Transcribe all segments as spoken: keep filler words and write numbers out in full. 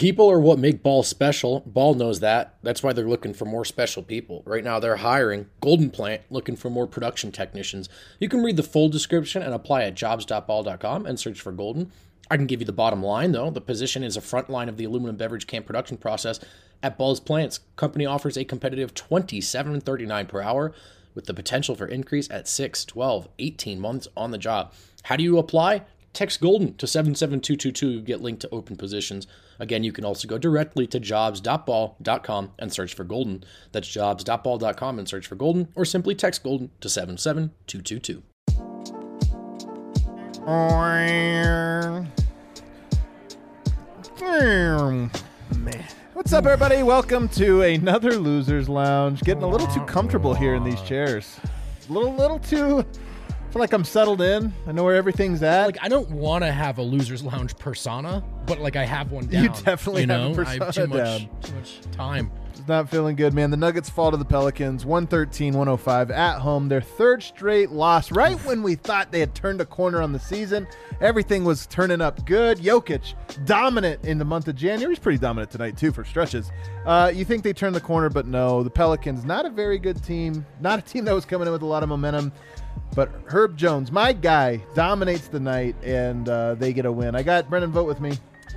People are what make Ball special. Ball knows that. That's why they're looking for more special people. Right now they're hiring Golden Plant, looking for more production technicians. You can read the full description and apply at jobs dot ball dot com and search for Golden. I can give you the bottom line, though. The position is a front line of the aluminum beverage can production process at Ball's plants. Company offers a competitive twenty-seven thirty-nine per hour with the potential for increase at six, twelve, eighteen months on the job. How do you apply? Text Golden to seven seven two two two. Get linked to open positions. Again, you can also go directly to jobs dot ball dot com and search for Golden. That's jobs dot ball dot com and search for Golden, or simply text Golden to seven seven two two two. Man. What's up, everybody? Welcome to another Losers Lounge. Getting a little too comfortable here in these chairs. A little, little too... I feel like I'm settled in. I know where everything's at. Like, I don't want to have a Losers Lounge persona, but like I have one down. You definitely you have know? a persona I have too much, down. too much time. It's not feeling good, man. The Nuggets fall to the Pelicans, one thirteen one oh five at home. Their third straight loss, right when we thought they had turned a corner on the season. Everything was turning up good. Jokic, dominant in the month of January. He's pretty dominant tonight, too, for stretches. Uh, you think they turned the corner, but no. The Pelicans, not a very good team. Not a team that was coming in with a lot of momentum. But Herb Jones, my guy, dominates the night, and uh, they get a win. I got Brendan Vogt with me.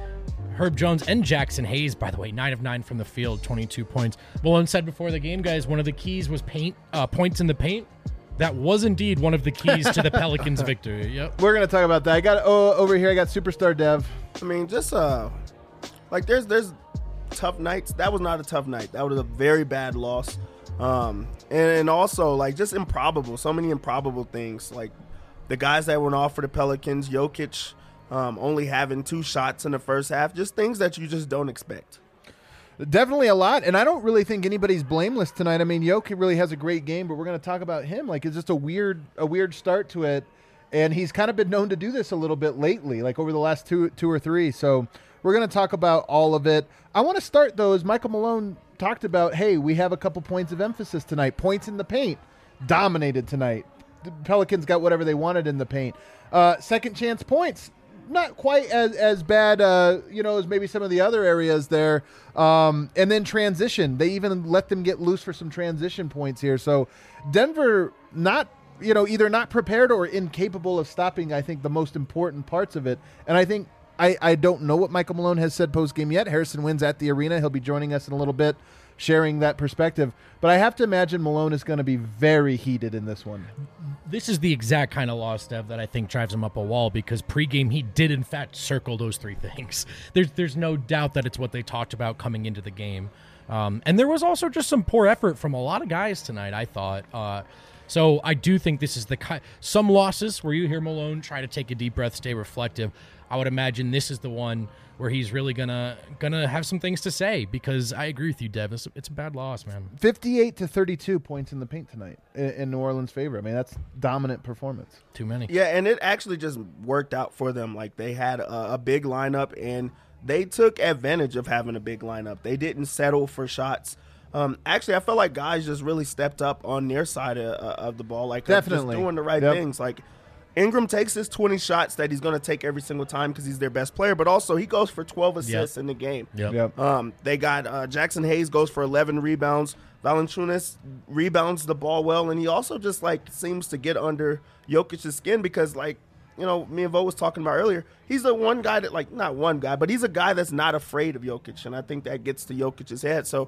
Herb Jones and Jackson Hayes, by the way, nine of nine from the field, twenty-two points. Malone said before the game, guys, one of the keys was paint uh, points in the paint. That was indeed one of the keys to the Pelicans' victory. Yep. We're going to talk about that. I got oh, over here, I got Superstar Dev. I mean, just uh, like there's there's tough nights. That was not a tough night. That was a very bad loss. Um, and, and also, like, just improbable. So many improbable things. Like, the guys that went off for the Pelicans, Jokic um, only having two shots in the first half. Just things that you just don't expect. Definitely a lot, and I don't really think anybody's blameless tonight. I mean, Jokic really has a great game, but we're going to talk about him. Like, it's just a weird a weird start to it, and he's kind of been known to do this a little bit lately, like over the last two two or three. So we're going to talk about all of it. I want to start, though, as Michael Malone talked about, hey, we have a couple points of emphasis tonight. Points in the paint. Dominated tonight. The Pelicans got whatever they wanted in the paint. Uh, second chance points. Not quite as, as bad, uh, you know, as maybe some of the other areas there. Um, and then transition. They even let them get loose for some transition points here. So Denver not, you know, either not prepared or incapable of stopping, I think, the most important parts of it. And I think I, I don't know what Michael Malone has said post-game yet. Harrison Winn's at the arena. He'll be joining us in a little bit, sharing that perspective. But I have to imagine Malone is going to be very heated in this one. This is the exact kind of loss, Dev, that I think drives him up a wall, because pregame he did, in fact, circle those three things. There's there's no doubt that it's what they talked about coming into the game. Um, and there was also just some poor effort from a lot of guys tonight, I thought. Uh, so I do think this is the kind – some losses where you hear Malone try to take a deep breath, stay reflective. I would imagine this is the one where he's really gonna gonna have some things to say, because I agree with you, Dev. It's, it's a bad loss, man. fifty-eight to thirty-two points in the paint tonight in, in New Orleans' favor. I mean, that's dominant performance. Too many. Yeah, and it actually just worked out for them. Like, they had a, a big lineup, and they took advantage of having a big lineup. They didn't settle for shots. Um, actually, I felt like guys just really stepped up on their side of, of the ball. Like, Definitely. just doing the right Yep. things. Like, Ingram takes his twenty shots that he's going to take every single time because he's their best player, but also he goes for twelve assists Yep. in the game. Yep. Yep. Um, they got uh, Jackson Hayes goes for eleven rebounds. Valanciunas rebounds the ball well, and he also just, like, seems to get under Jokic's skin because, like, you know, me and Vo was talking about earlier, he's the one guy that, like, not one guy, but he's a guy that's not afraid of Jokic, and I think that gets to Jokic's head. So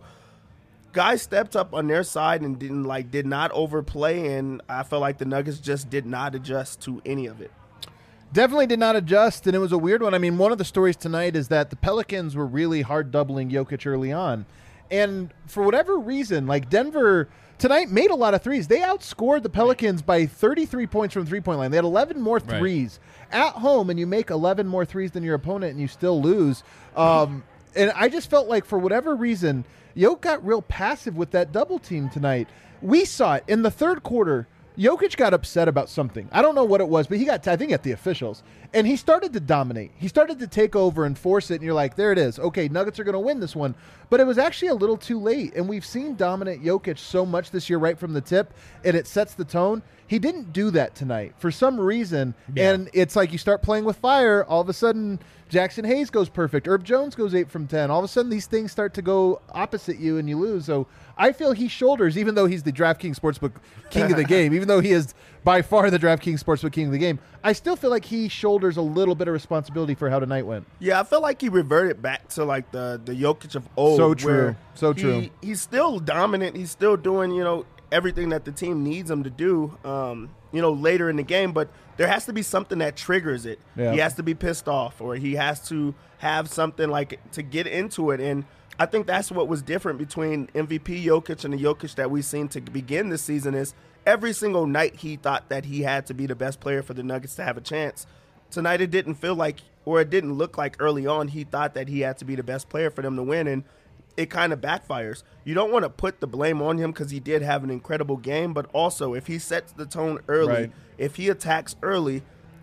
guys stepped up on their side and didn't like did not overplay, and I felt like the Nuggets just did not adjust to any of it. Definitely did not adjust, and it was a weird one. I mean, one of the stories tonight is that the Pelicans were really hard doubling Jokic early on. And for whatever reason, like Denver tonight made a lot of threes. They outscored the Pelicans by thirty-three points from the three-point line. They had eleven more threes right. At home, and you make eleven more threes than your opponent, and you still lose. Um, and I just felt like for whatever reason, Jokic got real passive with that double team tonight. We saw it in the third quarter. Jokic got upset about something. I don't know what it was, but he got, I think, at the officials. And he started to dominate. He started to take over and force it, and you're like, there it is. Okay, Nuggets are going to win this one. But it was actually a little too late, and we've seen dominant Jokic so much this year right from the tip, and it sets the tone. He didn't do that tonight for some reason, yeah. And it's like you start playing with fire, all of a sudden Jackson Hayes goes perfect. Herb Jones goes eight from ten. All of a sudden, these things start to go opposite you and you lose. So I feel he shoulders, even though he's the DraftKings Sportsbook king of the game, even though he is by far the DraftKings Sportsbook king of the game, I still feel like he shoulders a little bit of responsibility for how tonight went. Yeah, I feel like he reverted back to like the, the Jokic of old. So true. where So he- true. He's still dominant. He's still doing, you know, everything that the team needs him to do, um, you know, later in the game. But there has to be something that triggers it. Yeah. He has to be pissed off, or he has to have something like to get into it. And I think that's what was different between M V P Jokic and the Jokic that we've seen to begin this season is every single night he thought that he had to be the best player for the Nuggets to have a chance. Tonight it didn't feel like, or it didn't look like early on he thought that he had to be the best player for them to win, and it kind of backfires. You don't want to put the blame on him because he did have an incredible game, but also if he sets the tone early, Right. if he attacks early,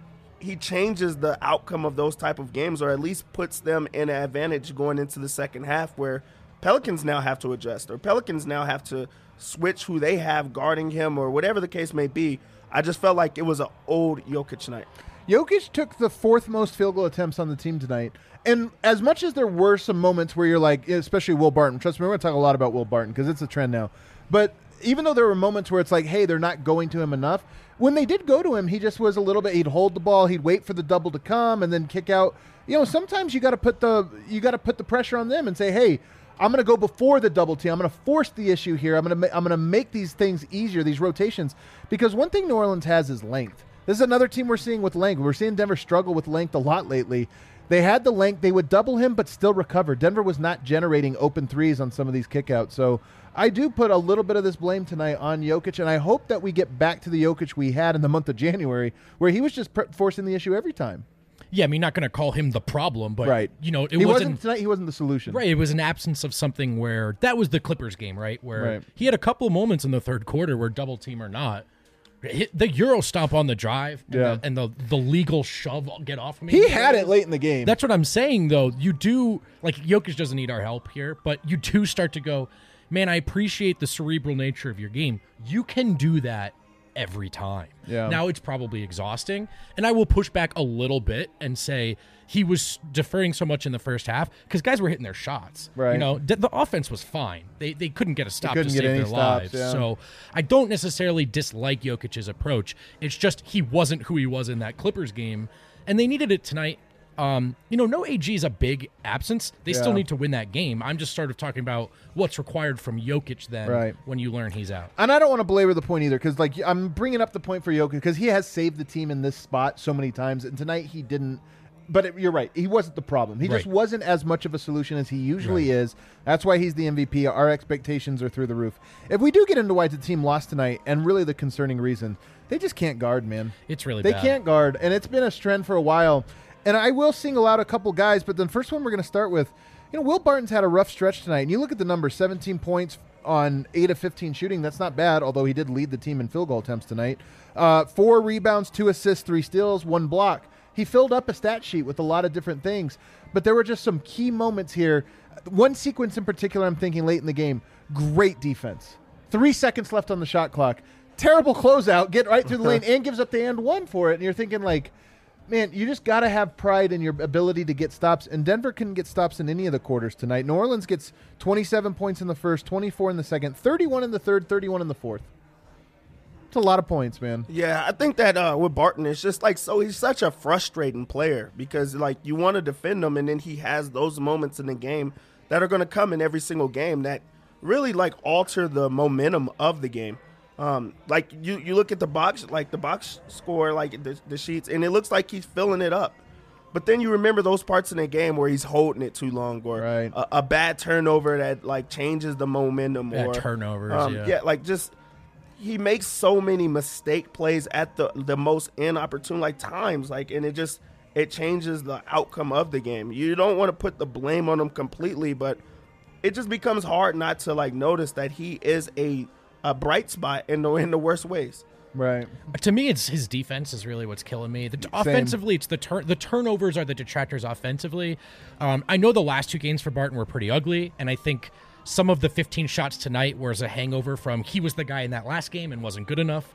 he changes the outcome of those type of games, or at least puts them in an advantage going into the second half where Pelicans now have to adjust, or Pelicans now have to switch who they have guarding him, or whatever the case may be. I just felt like it was an old Jokic night. Jokic took the fourth most field goal attempts on the team tonight. And as much as there were some moments where you're like, especially Will Barton, trust me, we're going to talk a lot about Will Barton because it's a trend now. But even though there were moments where it's like, hey, they're not going to him enough, when they did go to him, he just was a little bit, he'd hold the ball, he'd wait for the double to come and then kick out. You know, sometimes you got to put the you got to put the pressure on them and say, hey, I'm going to go before the double team. I'm going to force the issue here. I'm going to I'm going to make these things easier, these rotations, because one thing New Orleans has is length. This is another team we're seeing with length. We're seeing Denver struggle with length a lot lately. They had the length. They would double him, but still recover. Denver was not generating open threes on some of these kickouts. So I do put a little bit of this blame tonight on Jokic, and I hope that we get back to the Jokic we had in the month of January, where he was just pre- forcing the issue every time. Yeah, I mean, not going to call him the problem, but, Right. you know, it he wasn't, wasn't tonight. He wasn't the solution. right. It was an absence of something where that was the Clippers game, right? Where Right. he had a couple moments in the third quarter where double team or not, hit the Euro stomp on the drive and, Yeah. the, and the, the legal shove get off of me. He had it late in the game. That's what I'm saying, though. You do, like, Jokic doesn't need our help here, but you do start to go, man, I appreciate the cerebral nature of your game. You can do that every time. Yeah. Now it's probably exhausting, and I will push back a little bit and say he was deferring so much in the first half because guys were hitting their shots. Right. You know, the, the offense was fine. They they couldn't get a stop to couldn't save get any their stops, lives. yeah. So I don't necessarily dislike Jokic's approach. It's just he wasn't who he was in that Clippers game, and they needed it tonight. Um, you know, no A G is a big absence. They Yeah. still need to win that game. I'm just sort of talking about what's required from Jokic then Right. when you learn he's out. And I don't want to belabor the point either, because like I'm bringing up the point for Jokic because he has saved the team in this spot so many times, and tonight he didn't. But it, you're right, he wasn't the problem. He just Right. wasn't as much of a solution as he usually Right. is. That's why he's the M V P. Our expectations are through the roof. If we do get into why the team lost tonight, and really the concerning reason, they just can't guard, man. It's really They bad. can't guard, and it's been a trend for a while. And I will single out a couple guys, but the first one we're going to start with, you know, Will Barton's had a rough stretch tonight. And you look at the numbers, seventeen points on eight of fifteen shooting. That's not bad, although he did lead the team in field goal attempts tonight. Uh, four rebounds, two assists, three steals, one block. He filled up a stat sheet with a lot of different things. But there were just some key moments here. One sequence in particular I'm thinking late in the game, great defense. Three seconds left on the shot clock. Terrible closeout, get right through the lane, and gives up the and one for it. And you're thinking like, man, you just got to have pride in your ability to get stops, and Denver couldn't get stops in any of the quarters tonight. New Orleans gets twenty-seven points in the first, twenty-four in the second, thirty-one in the third, thirty-one in the fourth. It's a lot of points, man. Yeah, I think that uh, with Barton, it's just like, so he's such a frustrating player because, like, you want to defend him, and then he has those moments in the game that are going to come in every single game that really, like, alter the momentum of the game. Um, like, you, you look at the box, like, the box score, like, the, the sheets, and it looks like he's filling it up. But then you remember those parts in the game where he's holding it too long, or Right. a, a bad turnover that, like, changes the momentum. Bad or turnovers, um, yeah. yeah, like, just he makes so many mistake plays at the the most inopportune like times, like, and it just it changes the outcome of the game. You don't want to put the blame on him completely, but it just becomes hard not to like notice that he is a a bright spot in the in the worst ways. Right. To me, it's his defense is really what's killing me. The, offensively, it's the turn. The turnovers are the detractors offensively. Um, I know the last two games for Barton were pretty ugly, and I think some of the fifteen shots tonight was a hangover from he was the guy in that last game and wasn't good enough.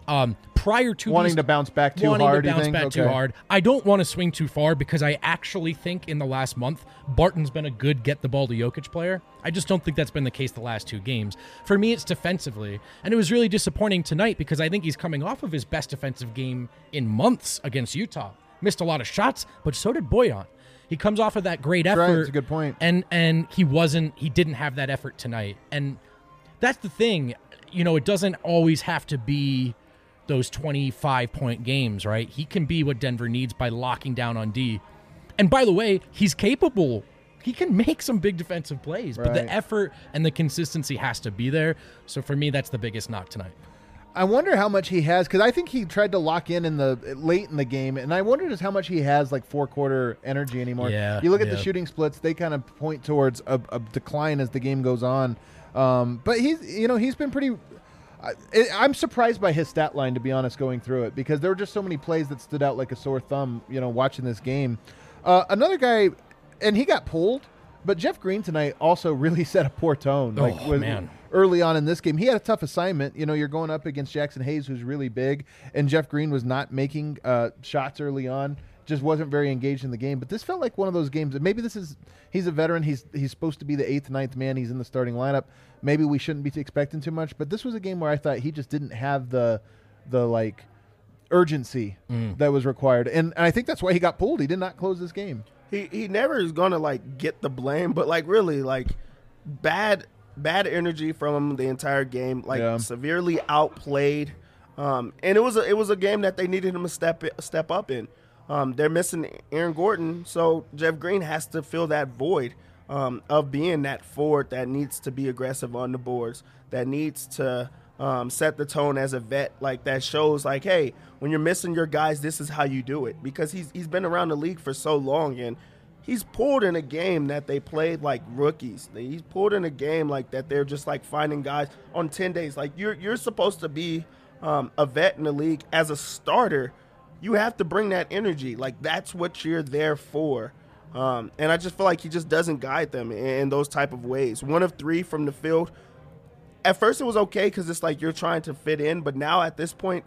Um, prior to Wanting these, to bounce back too wanting hard, to you bounce think? back too Okay. hard. I don't want to swing too far because I actually think in the last month, Barton's been a good get the ball to Jokic player. I just don't think that's been the case the last two games. For me, it's defensively. And it was really disappointing tonight because I think he's coming off of his best defensive game in months against Utah. Missed a lot of shots, but so did Boyan. He comes off of that great That's effort. right, that's a good point. And and he wasn't he didn't have that effort tonight. And that's the thing. You know, it doesn't always have to be those twenty-five point games, right? He can be what Denver needs by locking down on D. And by the way, he's capable. He can make some big defensive plays, but the Right. effort and the consistency has to be there. So for me, that's the biggest knock tonight. I wonder how much he has, because I think he tried to lock in in the late in the game, and I wonder just how much he has like four quarter energy anymore. Yeah, you look at the yeah. shooting splits; they kind of point towards a, a decline as the game goes on. Um, but he's, you know, he's been pretty. I, I'm surprised by his stat line, to be honest, going through it, because there were just so many plays that stood out like a sore thumb. You know, watching this game, uh, another guy, and he got pulled, but Jeff Green tonight also really set a poor tone. Like, Oh, was- man. Early on in this game, he had a tough assignment. You know, you're going up against Jackson Hayes, who's really big, and Jeff Green was not making uh, shots early on. Just wasn't very engaged in the game. But this felt like one of those games. Maybe this is he's a veteran. He's he's supposed to be the eighth, ninth man. He's in the starting lineup. Maybe we shouldn't be expecting too much. But this was a game where I thought he just didn't have the the like urgency that was required, and, and I think that's why he got pulled. He did not close this game. He he never is gonna like get the blame, but like really like bad bad energy from him the entire game. Like Yeah. severely outplayed, um, and it was a, it was a game that they needed him to step step up in. Um, they're missing Aaron Gordon, so Jeff Green has to fill that void um, of being that forward that needs to be aggressive on the boards, that needs to um, set the tone as a vet, like that shows like, hey, when you're missing your guys, this is how you do it. Because he's he's been around the league for so long, and he's pulled in a game that they played like rookies. He's pulled in a game like that they're just like finding guys on ten days. Like you're you're supposed to be um, a vet in the league as a starter. You have to bring that energy. Like, that's what you're there for. Um, and I just feel like he just doesn't guide them in, in those type of ways. One of three from the field. At first it was okay because it's like you're trying to fit in. But now at this point,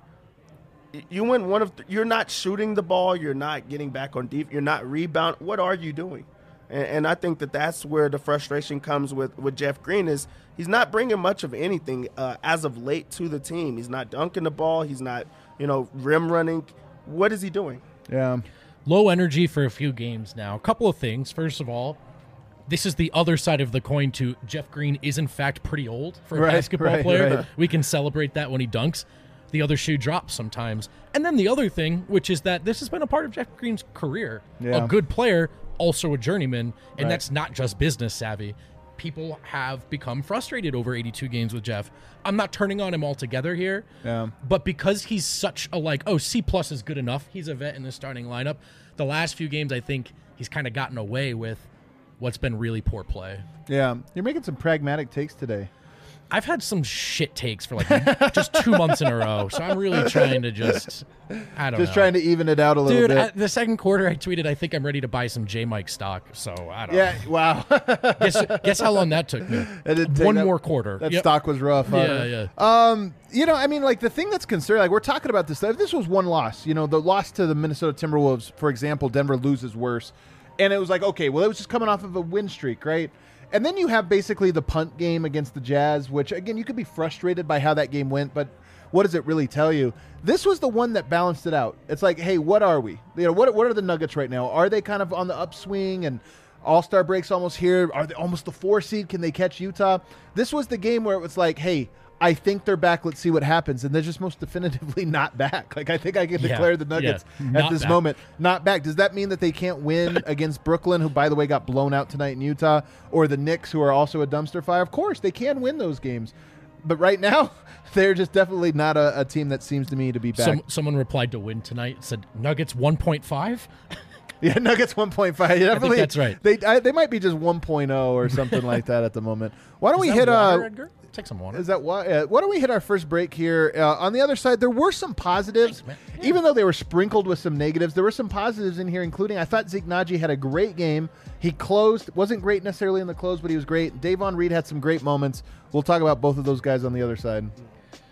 y- you went one of th- you're not shooting the ball. You're not getting back on deep. You're not rebound. What are you doing? And, and I think that that's where the frustration comes with, with Jeff Green is he's not bringing much of anything uh, as of late to the team. He's not dunking the ball. He's not, you know, rim running. What is he doing? Yeah. Low energy for a few games now. A couple of things. First of all, this is the other side of the coin to Jeff Green is in fact pretty old for a Right, basketball right, player. right. We can celebrate that when he dunks. The other shoe drops sometimes. And then the other thing, which is that this has been a part of Jeff Green's career. Yeah. A good player, also a journeyman, and Right. that's not just business savvy. People have become frustrated over eighty-two games with Jeff. I'm not turning on him altogether here. Yeah. But because he's such a like, oh, C plus is good enough. He's a vet in the starting lineup. The last few games, I think he's kind of gotten away with what's been really poor play. Yeah. You're making some pragmatic takes today. I've had some shit takes for like just two months in a row, so I'm really trying to just, I don't Just know. trying to even it out a little Dude, bit. at the second quarter, I tweeted, I think I'm ready to buy some J Mike stock. So I don't yeah. Wow. know. Guess, guess how long that took me? It didn't take One that- more quarter. That Yep. stock was rough. huh? Yeah, yeah. Um, you know, I mean, like the thing that's concerning, like we're talking about this. If this was one loss, you know, the loss to the Minnesota Timberwolves, for example, Denver loses worse, and it was like, okay, well, it was just coming off of a win streak, right? And then you have basically the punt game against the Jazz, which again, you could be frustrated by how that game went, but what does it really tell you? This was the one that balanced it out. It's like, hey, what are we? You know, what what are the Nuggets right now? Are they kind of on the upswing and All-Star break's almost here? Are they almost the four seed? Can they catch Utah? This was the game where it was like, hey, I think they're back. Let's see what happens. And they're just most definitively not back. Like, I think I can Yeah, declare the Nuggets yeah, at not this back. moment not back. Does that mean that they can't win against Brooklyn, who, by the way, got blown out tonight in Utah, or the Knicks, who are also a dumpster fire? Of course, they can win those games. But right now, they're just definitely not a, a team that seems to me to be back. Some, someone replied to win tonight, said Nuggets one point five. Yeah, Nuggets one point five. Yeah, definitely, that's right. They I, they might be just one point oh or something like that at the moment. Why don't we Is that hit water, uh Edgar? Take some water. Is that why? Uh, why don't we hit our first break here? Uh, on the other side, there were some positives, Thanks, man. Yeah. even though they were sprinkled with some negatives. There were some positives in here, including I thought Zeke Naji had a great game. He closed, wasn't great necessarily in the close, but he was great. Davon Reed had some great moments. We'll talk about both of those guys on the other side.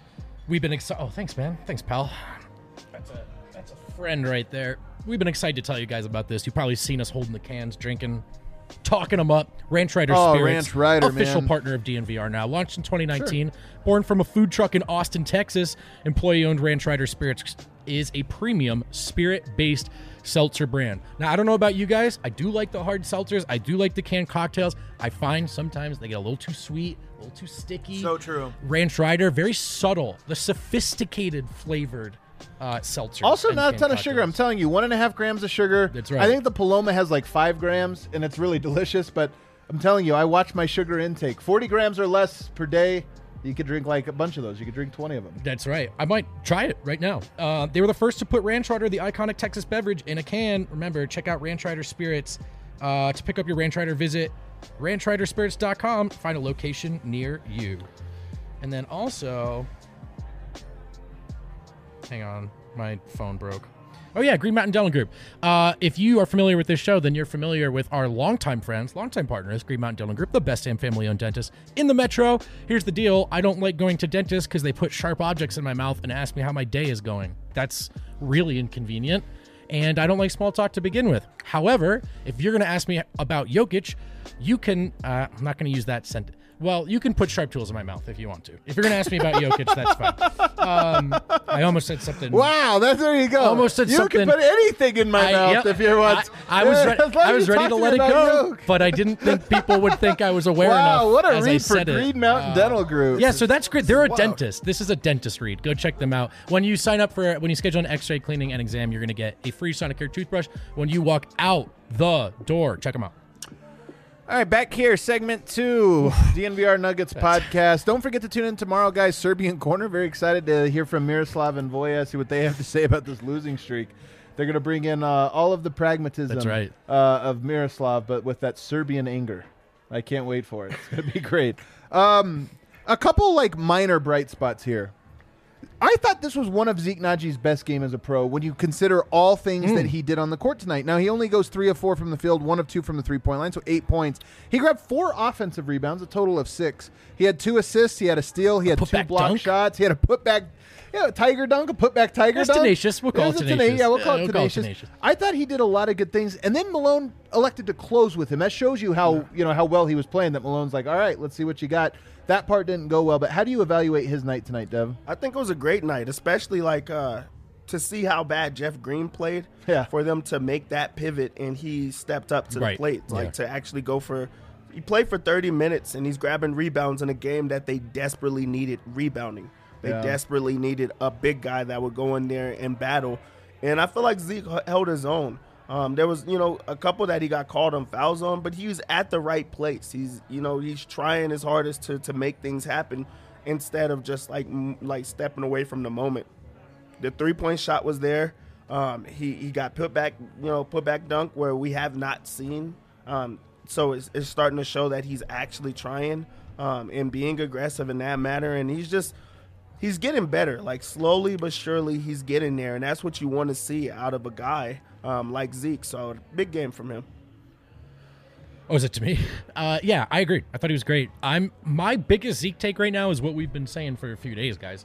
We've been excited. Oh, thanks, man. Thanks, pal. That's a that's a friend right there. We've been excited to tell you guys about this. You've probably seen us holding the cans, drinking, talking them up. Ranch Rider Oh, Spirits, Ranch Rider, official man. partner of D N V R now. Launched in twenty nineteen, born from a food truck in Austin, Texas. Employee-owned Ranch Rider Spirits is a premium spirit-based seltzer brand. Now, I don't know about you guys. I do like the hard seltzers. I do like the canned cocktails. I find sometimes they get a little too sweet, a little too sticky. So true. Ranch Rider, very subtle, the sophisticated flavored uh, seltzers. Also, and not a canned ton of sugar. I'm cocktails. telling you, one and a half grams of sugar. That's right. I think the Paloma has like five grams, and it's really delicious. But I'm telling you, I watch my sugar intake. forty grams or less per day. You could drink like a bunch of those. You could drink twenty of them. That's right. I might try it right now. Uh, they were the first to put Ranch Rider, the iconic Texas beverage, in a can. Remember, check out Ranch Rider Spirits. Uh, to pick up your Ranch Rider, visit ranch rider spirits dot com. Find a location near you. And then also, hang on, my phone broke. Oh, yeah, Green Mountain Dental Group. Uh, if you are familiar with this show, then you're familiar with our longtime friends, longtime partners, Green Mountain Dental Group, the best damn family-owned dentist in the metro. Here's the deal. I don't like going to dentists because they put sharp objects in my mouth and ask me how my day is going. That's really inconvenient, and I don't like small talk to begin with. However, if you're going to ask me about Jokic, you can uh, – I'm not going to use that sentence. Well, you can put sharp tools in my mouth if you want to. If you're going to ask me about Jokic, that's fine. Um, I almost said something. Wow, that's there you go. Almost said you something- can put anything in my I- mouth yep, if you want. I, I was, Yeah, re- as long I as was you ready talk to me let it about go, Yoke. but I didn't think people would think I was aware Wow, enough what a as I read for said it. Green Mountain Uh, Dental Group. Yeah, so that's great. They're a Wow. dentist. This is a dentist read. Go check them out. When you sign up for, when you schedule an x-ray cleaning and exam, you're going to get a free Sonicare toothbrush when you walk out the door. Check them out. All right, back here, segment two, D N V R Nuggets podcast. Don't forget to tune in tomorrow, guys. Serbian Corner. Very excited to hear from Miroslav and Voya, see what they have to say about this losing streak. They're going to bring in uh, all of the pragmatism That's right. uh, of Miroslav, but with that Serbian anger. I can't wait for it. It's going to be great. Um, a couple like minor bright spots here. I thought this was one of Zeke Naji's best game as a pro when you consider all things that he did on the court tonight. Now, he only goes three of four from the field, one of two from the three-point line, so eight points. He grabbed four offensive rebounds, a total of six. He had two assists. He had a steal. He had two putback block dunk? shots. He had a putback, yeah, a tiger dunk, a putback tiger That's dunk. tenacious. We'll call Is it tena- tenacious. Yeah, we'll Yeah, call, it, we'll call it tenacious. tenacious. I thought he did a lot of good things, and then Malone elected to close with him. That shows you how you know how well he was playing. That Malone's like, all right, let's see what you got. That part didn't go well, but how do you evaluate his night tonight, Dev? I think it was a great night, especially like uh, to see how bad Jeff Green played. Yeah. For them to make that pivot and he stepped up to Right. the plate, like Yeah. to actually go for. He played for thirty minutes and he's grabbing rebounds in a game that they desperately needed rebounding. They Yeah. desperately needed a big guy that would go in there and battle. And I feel like Zeke h- held his own. Um, there was, you know, a couple that he got called on fouls on, but he was at the right place. He's, you know, he's trying his hardest to to make things happen instead of just like m- like stepping away from the moment. The three point shot was there. Um, he he got put back, you know, put back dunk where we have not seen. Um, so it's, it's starting to show that he's actually trying um, and being aggressive in that matter. And he's just he's getting better, like slowly but surely he's getting there, and that's what you want to see out of a guy um, like Zeke. So big game from him. Oh, is it to me? Uh, yeah, I agree. I thought he was great. I'm my biggest Zeke take right now is what we've been saying for a few days, guys.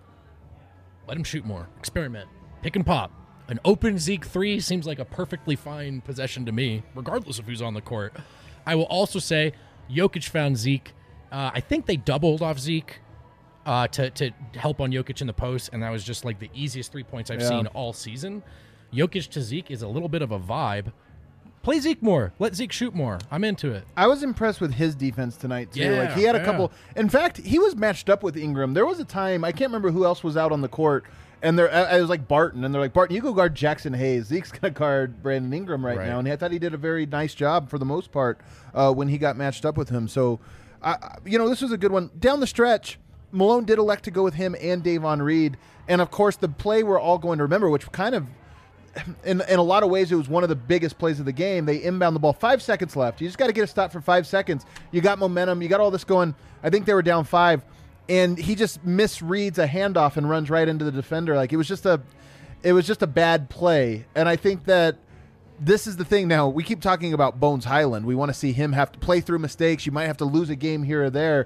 Let him shoot more. Experiment. Pick and pop. An open Zeke three seems like a perfectly fine possession to me, regardless of who's on the court. I will also say Jokic found Zeke. Uh, I think they doubled off Zeke uh, to, to help on Jokic in the post, and that was just like the easiest three points I've Yeah. seen all season. Jokic to Zeke is a little bit of a vibe. Play Zeke more. Let Zeke shoot more. I'm into it. I was impressed with his defense tonight too. Yeah, like he had a yeah. couple. In fact, he was matched up with Ingram. There was a time I can't remember who else was out on the court, and there I I was like Barton, and they're like Barton, you go guard Jackson Hayes. Zeke's gonna guard Brandon Ingram right, Right. now, and I thought he did a very nice job for the most part uh, when he got matched up with him. So, I I- you know, this was a good one down the stretch. Malone did elect to go with him and Davon Reed, and of course the play we're all going to remember, which kind of. In, in a lot of ways, it was one of the biggest plays of the game. They inbound the ball. Five seconds left. You just got to get a stop for five seconds. You got momentum. You got all this going. I think they were down five, and he just misreads a handoff and runs right into the defender. Like it was just a, it was just a bad play. And I think that this is the thing. Now we keep talking about Bones Highland. We want to see him have to play through mistakes. You might have to lose a game here or there.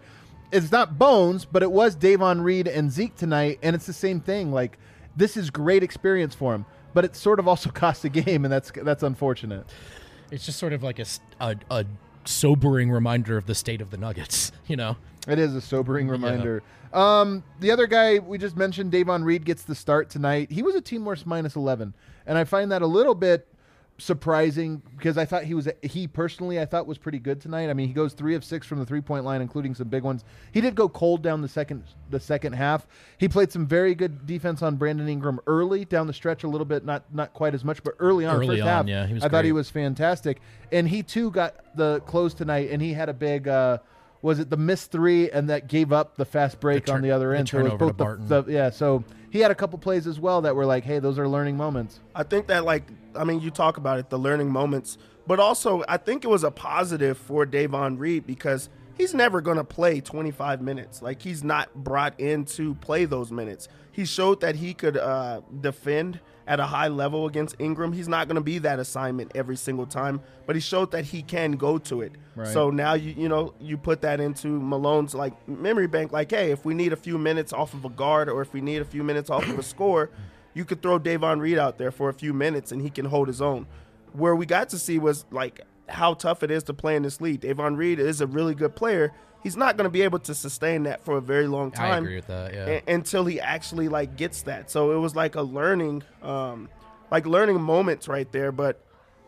it's not Bones, but it was Davon Reed and Zeke tonight, and it's the same thing. Like, this is great experience for him, but it sort of also cost a game, and that's that's unfortunate. It's just sort of like a, s- a- a sobering reminder of the state of the Nuggets, you know? It is a sobering reminder. Um, the other guy we just mentioned, Davon Reed, gets the start tonight. He was a team worst minus eleven, and I find that a little bit surprising because I thought he was he personally I thought was pretty good tonight. I mean, he goes three of six from the three point line, including some big ones. He did go cold down the second the second half. He played some very good defense on Brandon Ingram early down the stretch a little bit, not not quite as much, but early on. Early first on, half, yeah, he was I thought he great. was fantastic, and he too got the close tonight, and he had a big. Uh, was it the missed three and that gave up the fast break The tur- on the other the end? So it was turnover both to Barton. the, the yeah. So he had a couple plays as well that were like, hey, those are learning moments. I think that, like, I mean, you talk about it, the learning moments, but also I think it was a positive for Davon Reed because he's never going to play twenty-five minutes. Like, he's not brought in to play those minutes. He showed that he could uh, defend at a high level against Ingram. He's not going to be that assignment every single time, but he showed that he can go to it. Right. So now, you you know, you put that into Malone's, like, memory bank, like, hey, if we need a few minutes off of a guard or if we need a few minutes off of a score, you could throw Davon Reed out there for a few minutes and he can hold his own. Where we got to see was, like, how tough it is to play in this league. Davon Reed is a really good player. He's not going to be able to sustain that for a very long time. I agree with that, yeah. a- until he actually, like, gets that. So it was like a learning, um, like learning moments right there. But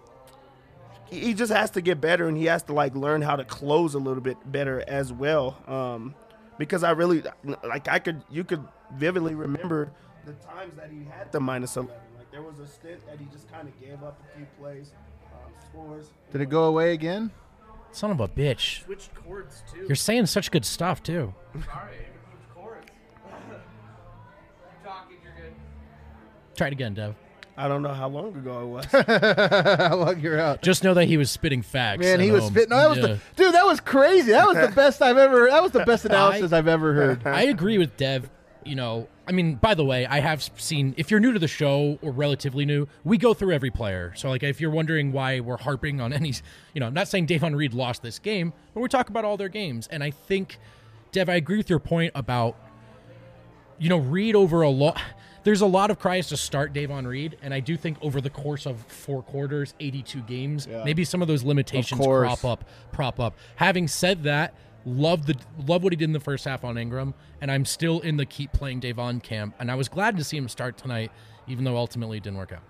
he he just has to get better, and he has to, like, learn how to close a little bit better as well. Um, because I really, like, I could, you could vividly remember the times that he had the minus eleven. Like, there was a stint that he just kind of gave up a few plays, um, scores. Did it go away again? Son of a bitch. Switched chords too. You're saying such good stuff, too. Sorry, switched chords. Keep talking, you're good. Try it again, Dev. I don't know how long ago it was. How long you're out? Just know that he was spitting facts. Man, at he was home. spitting. No, that was Yeah. the, dude, that was crazy. That was the best I've ever. That was the best analysis I've ever heard. I agree with Dev. You know, I mean, by the way, I have seen, if you're new to the show or relatively new, we go through every player. So, like, if you're wondering why we're harping on any, you know, I'm not saying Davon Reed lost this game, but we're talking about all their games. And I think, Dev, I agree with your point about, you know, Reed over a lot. There's a lot of cries to start Davon Reed, and I do think over the course of four quarters, eighty-two games, Yeah. maybe some of those limitations Of course. crop up, prop up. Having said that, love the love what he did in the first half on Ingram, and I'm still in the keep playing Davon camp, and I was glad to see him start tonight, even though ultimately it didn't work out.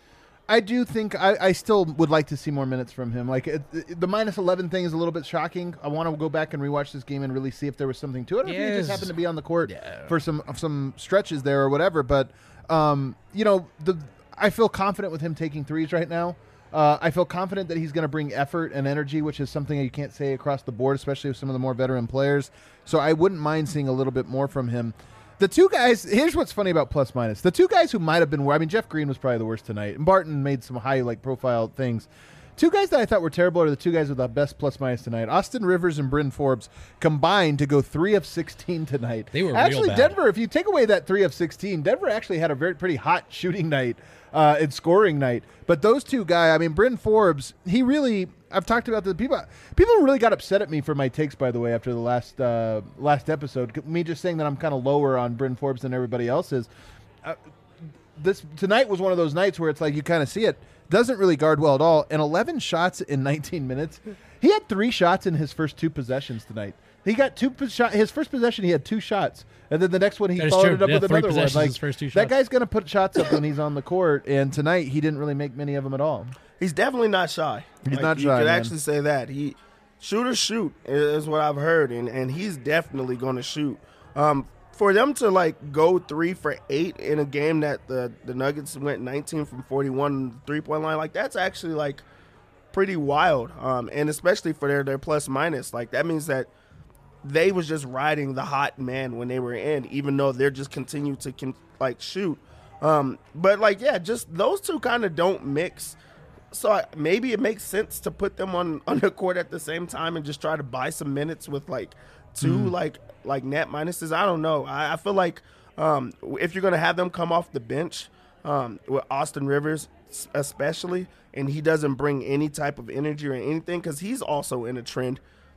I do think I, I still would like to see more minutes from him. Like it, it- the minus eleven thing is a little bit shocking. I want to go back and rewatch this game and really see if there was something to it. Or if he Yes. just happened to be on the court Yeah. for some some stretches there or whatever. But um, you know, the I feel confident with him taking threes right now. Uh, I feel confident that he's going to bring effort and energy, which is something you can't say across the board, especially with some of the more veteran players. So I wouldn't mind seeing a little bit more from him. The two guys, here's what's funny about plus minus. The two guys who might have been, I mean, Jeff Green was probably the worst tonight, and Barton made some high, like, profile things. Two guys that I thought were terrible are the two guys with the best plus minus tonight. Austin Rivers and Bryn Forbes combined to go three of sixteen tonight. They were real actually bad. Denver. If you take away that three of sixteen, Denver actually had a very pretty hot shooting night uh, and scoring night. But those two guys, I mean, Bryn Forbes, he really. I've talked about the people. People really got upset at me for my takes, by the way, after the last uh, last episode. Me just saying that I'm kind of lower on Bryn Forbes than everybody else is. Uh, this tonight was one of those nights where it's like you kind of see it. Doesn't really guard well at all. And eleven shots in nineteen minutes. He had three shots in his first two possessions tonight. He got two po- shot. His first possession, he had two shots, and then the next one he That is followed true. it up Yeah, with three another one. possessions, Like his first two that shots. guy's gonna put shots up when he's on the court. And tonight he didn't really make many of them at all. He's definitely not shy. He's Like, not you shy, could man. actually say that. He shoot or shoot is what I've heard, and, and he's definitely going to shoot. Um, for them to, like, go three for eight in a game that the, the Nuggets went nineteen from forty-one three-point line, like, that's actually, like, pretty wild. Um, and especially for their, their plus minus. Like, that means that they was just riding the hot man when they were in, even though they're just continue to, con- like, shoot. Um, but, like, yeah, just those two kind of don't mix. So I, maybe it makes sense to put them on, on the court at the same time and just try to buy some minutes with, like, two, Mm. like, like net minuses. I don't know. I, I feel like um, if you're going to have them come off the bench um, with Austin Rivers s- especially, and he doesn't bring any type of energy or anything because he's also in a trend,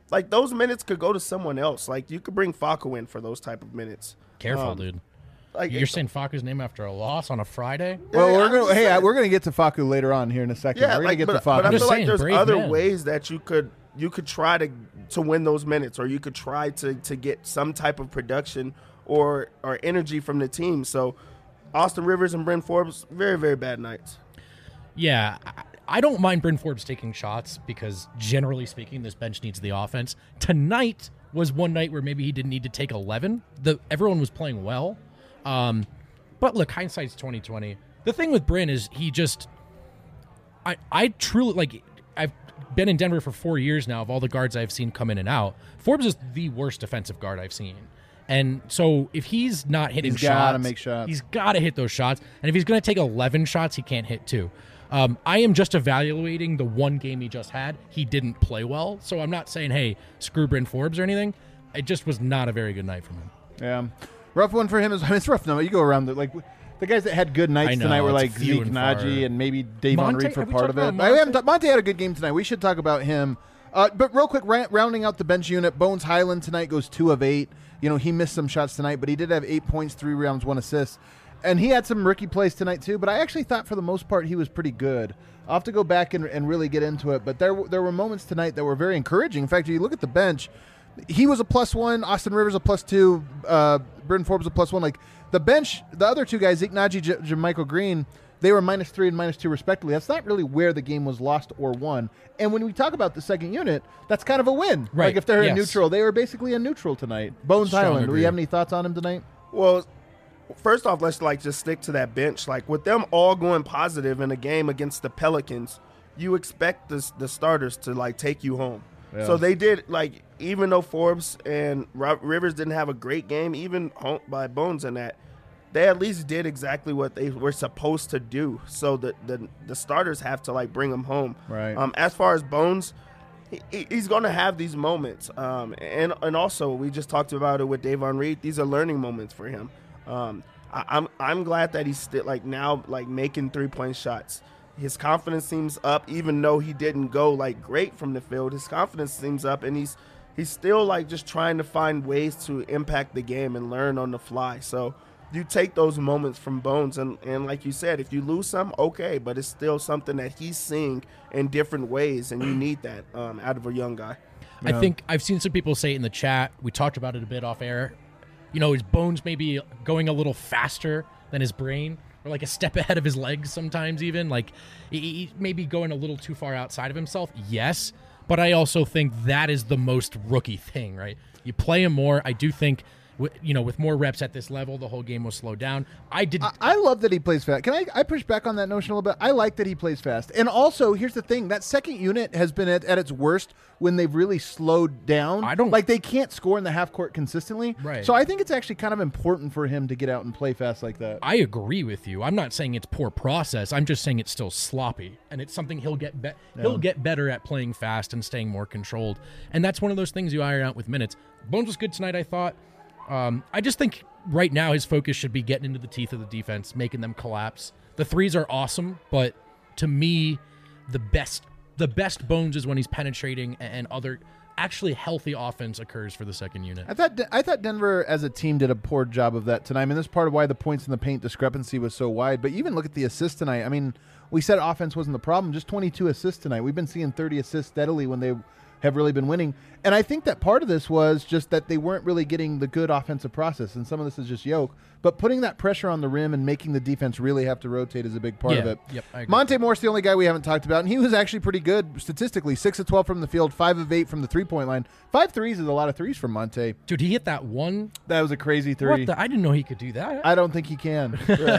like those minutes could go to someone else. Like you could bring Facu in for those type of minutes. Careful, Um, dude. Like You're saying Facu's name after a loss on a Friday? Well, Yeah, we're I'm gonna just hey, saying. we're gonna get to Facu later on here in a second. Yeah, we're gonna like, get but, to but I Facu. just feel like saying, there's brave other man. ways that you could you could try to to win those minutes, or you could try to to get some type of production or or energy from the team. So Austin Rivers and Bryn Forbes, very very bad nights. Yeah, I- I don't mind Bryn Forbes taking shots because generally speaking, this bench needs the offense. Tonight was one night where maybe he didn't need to take eleven. The everyone was playing well, um, but look, hindsight's twenty twenty. The thing with Bryn is he just, I I truly like. I've been in Denver for four years now. Of all the guards I've seen come in and out, Forbes is the worst defensive guard I've seen. And so if he's not hitting He's shots, gotta make shots. he's got to hit those shots. And if he's going to take eleven shots, he can't hit two. Um, I am just evaluating the one game he just had. He didn't play well. So I'm not saying, hey, screw Bryn Forbes or anything. It just was not a very good night from him. Yeah, rough one for him. Is I mean, it's rough. No, you go around the like the guys that had good nights I know, tonight were it's like few Zeke and far. Naji and maybe Davon Monte? Reed for Have we part of talked it. about I haven't Monte? t- Monte had a good game tonight. We should talk about him. Uh, but real quick, ra- rounding out the bench unit, Bones Highland tonight goes two of eight. You know, he missed some shots tonight, but he did have eight points, three rebounds, one assist. And he had some rookie plays tonight too, but I actually thought for the most part he was pretty good. I'll have to go back and, and really get into it, but there w- there were moments tonight that were very encouraging. In fact, if you look at the bench, he was a plus one, Austin Rivers a plus two, uh, Bryn Forbes a plus one. Like the bench, the other two guys, Zeke Naji, J- J- Michael Green, they were minus three and minus two respectively. That's not really where the game was lost or won. And when we talk about the second unit, that's kind of a win. Right, Like if they're yes. a neutral, they were basically a neutral tonight. Bones Strong Highland, do we agree. have any thoughts on him tonight? Well, first off, let's like just stick to that bench. Like with them all going positive in a game against the Pelicans, you expect this, the starters to like take you home. Yeah. So they did, like, even though Forbes and Ro- Rivers didn't have a great game, even home, by Bones in that, they at least did exactly what they were supposed to do. So the the, the starters have to like bring them home. Right. Um, as far as Bones, he, he- he's going to have these moments. Um, and and also we just talked about it with Davon Reed. These are learning moments for him. Um, I, I'm I'm glad that he's still like now like making three point shots. His confidence seems up, even though he didn't go like great from the field. His confidence seems up, and he's he's still like just trying to find ways to impact the game and learn on the fly. So you take those moments from Bones, and, and like you said, if you lose some, okay, but it's still something that he's seeing in different ways, and you need that um, out of a young guy. I think I've seen some people say it in the chat. We talked about it a bit off air. You know, his bones maybe going a little faster than his brain, or like a step ahead of his legs sometimes even. Like, he, he maybe going a little too far outside of himself. Yes, but I also think that is the most rookie thing, right? You play him more. I do think, wi- you know, with more reps at this level, the whole game will slow down. I did. I, I love that he plays fast. Can I, I push back on that notion a little bit? I like that he plays fast. And also, here's the thing. That second unit has been at, at its worst when they've really slowed down. I don't- Like, they can't score in the half court consistently. Right. So I think it's actually kind of important for him to get out and play fast like that. I agree with you. I'm not saying it's poor process. I'm just saying it's still sloppy, and it's something he'll get be- he'll get better at playing fast and staying more controlled. And that's one of those things you iron out with minutes. Bones was good tonight, I thought. Um, I just think right now his focus should be getting into the teeth of the defense, making them collapse. The threes are awesome, but to me, the best the best Bones is when he's penetrating and other actually healthy offense occurs for the second unit. I thought I thought Denver as a team did a poor job of that tonight. I mean, this is part of why the points in the paint discrepancy was so wide. But even look at the assists tonight. I mean, we said offense wasn't the problem. Just twenty-two assists tonight. We've been seeing thirty assists steadily when they have really been winning. And I think that part of this was just that they weren't really getting the good offensive process. And some of this is just yoke. But putting that pressure on the rim and making the defense really have to rotate is a big part of Yeah, it. yep, I agree. Monte Morris, the only guy we haven't talked about, and he was actually pretty good statistically. six of twelve from the field, five of eight from the three-point line. Five threes is a lot of threes from Monte. Dude, he hit that one. That was a crazy three. What the? I didn't know he could do that. I don't think he can.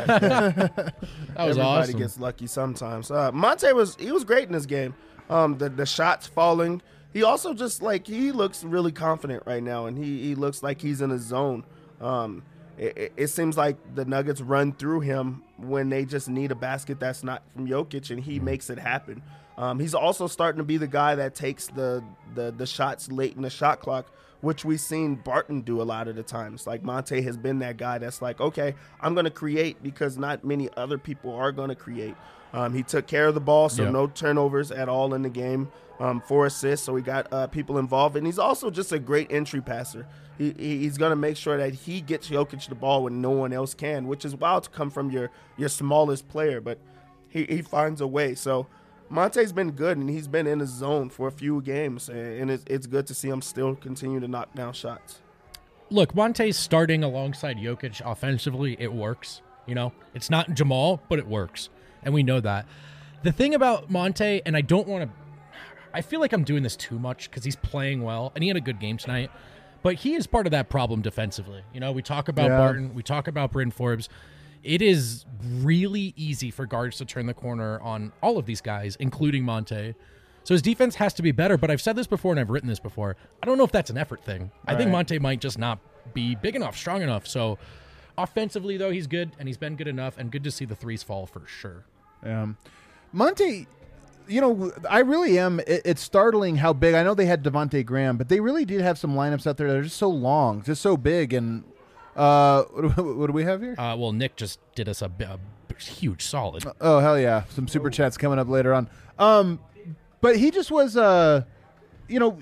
that was Everybody awesome. gets lucky sometimes. Uh, Monte was he was great in this game. Um, the the shots falling. He also just like he looks really confident right now, and he, he looks like he's in a zone. Um, it, it, it seems like the Nuggets run through him when they just need a basket that's not from Jokic, and he makes it happen. Um, he's also starting to be the guy that takes the, the the shots late in the shot clock, which we've seen Barton do a lot of the times. Like Monte has been that guy that's like, okay, I'm going to create because not many other people are going to create. Um, he took care of the ball, so Yep. no turnovers at all in the game, um, four assists, so he got uh, people involved. And he's also just a great entry passer. He, he, he's going to make sure that he gets Jokic the ball when no one else can, which is wild to come from your, your smallest player, but he, he finds a way. So Monte's been good, and he's been in his zone for a few games, and it's, it's good to see him still continue to knock down shots. Look, Monte's starting alongside Jokic offensively. It works. You know, it's not Jamal, but it works, and we know that. The thing about Monte, and I don't want to – I feel like I'm doing this too much because he's playing well, and he had a good game tonight, but he is part of that problem defensively. You know, we talk about Yeah. Barton. We talk about Bryn Forbes. It is really easy for guards to turn the corner on all of these guys, including Monte. So his defense has to be better, but I've said this before and I've written this before. I don't know if that's an effort thing. I think Right. Monte might just not be big enough, strong enough. So offensively, though, he's good, and he's been good enough, and good to see the threes fall for sure. Um, Monte, you know, I really am. It, it's startling how big. I know they had Devontae Graham, but they really did have some lineups out there that are just so long, just so big. And uh, what, do- what do we have here? Uh, well, Nick just did us a, bi- a huge solid. Oh, hell yeah. Some super chats coming up later on. Um, but he just was, uh, you know,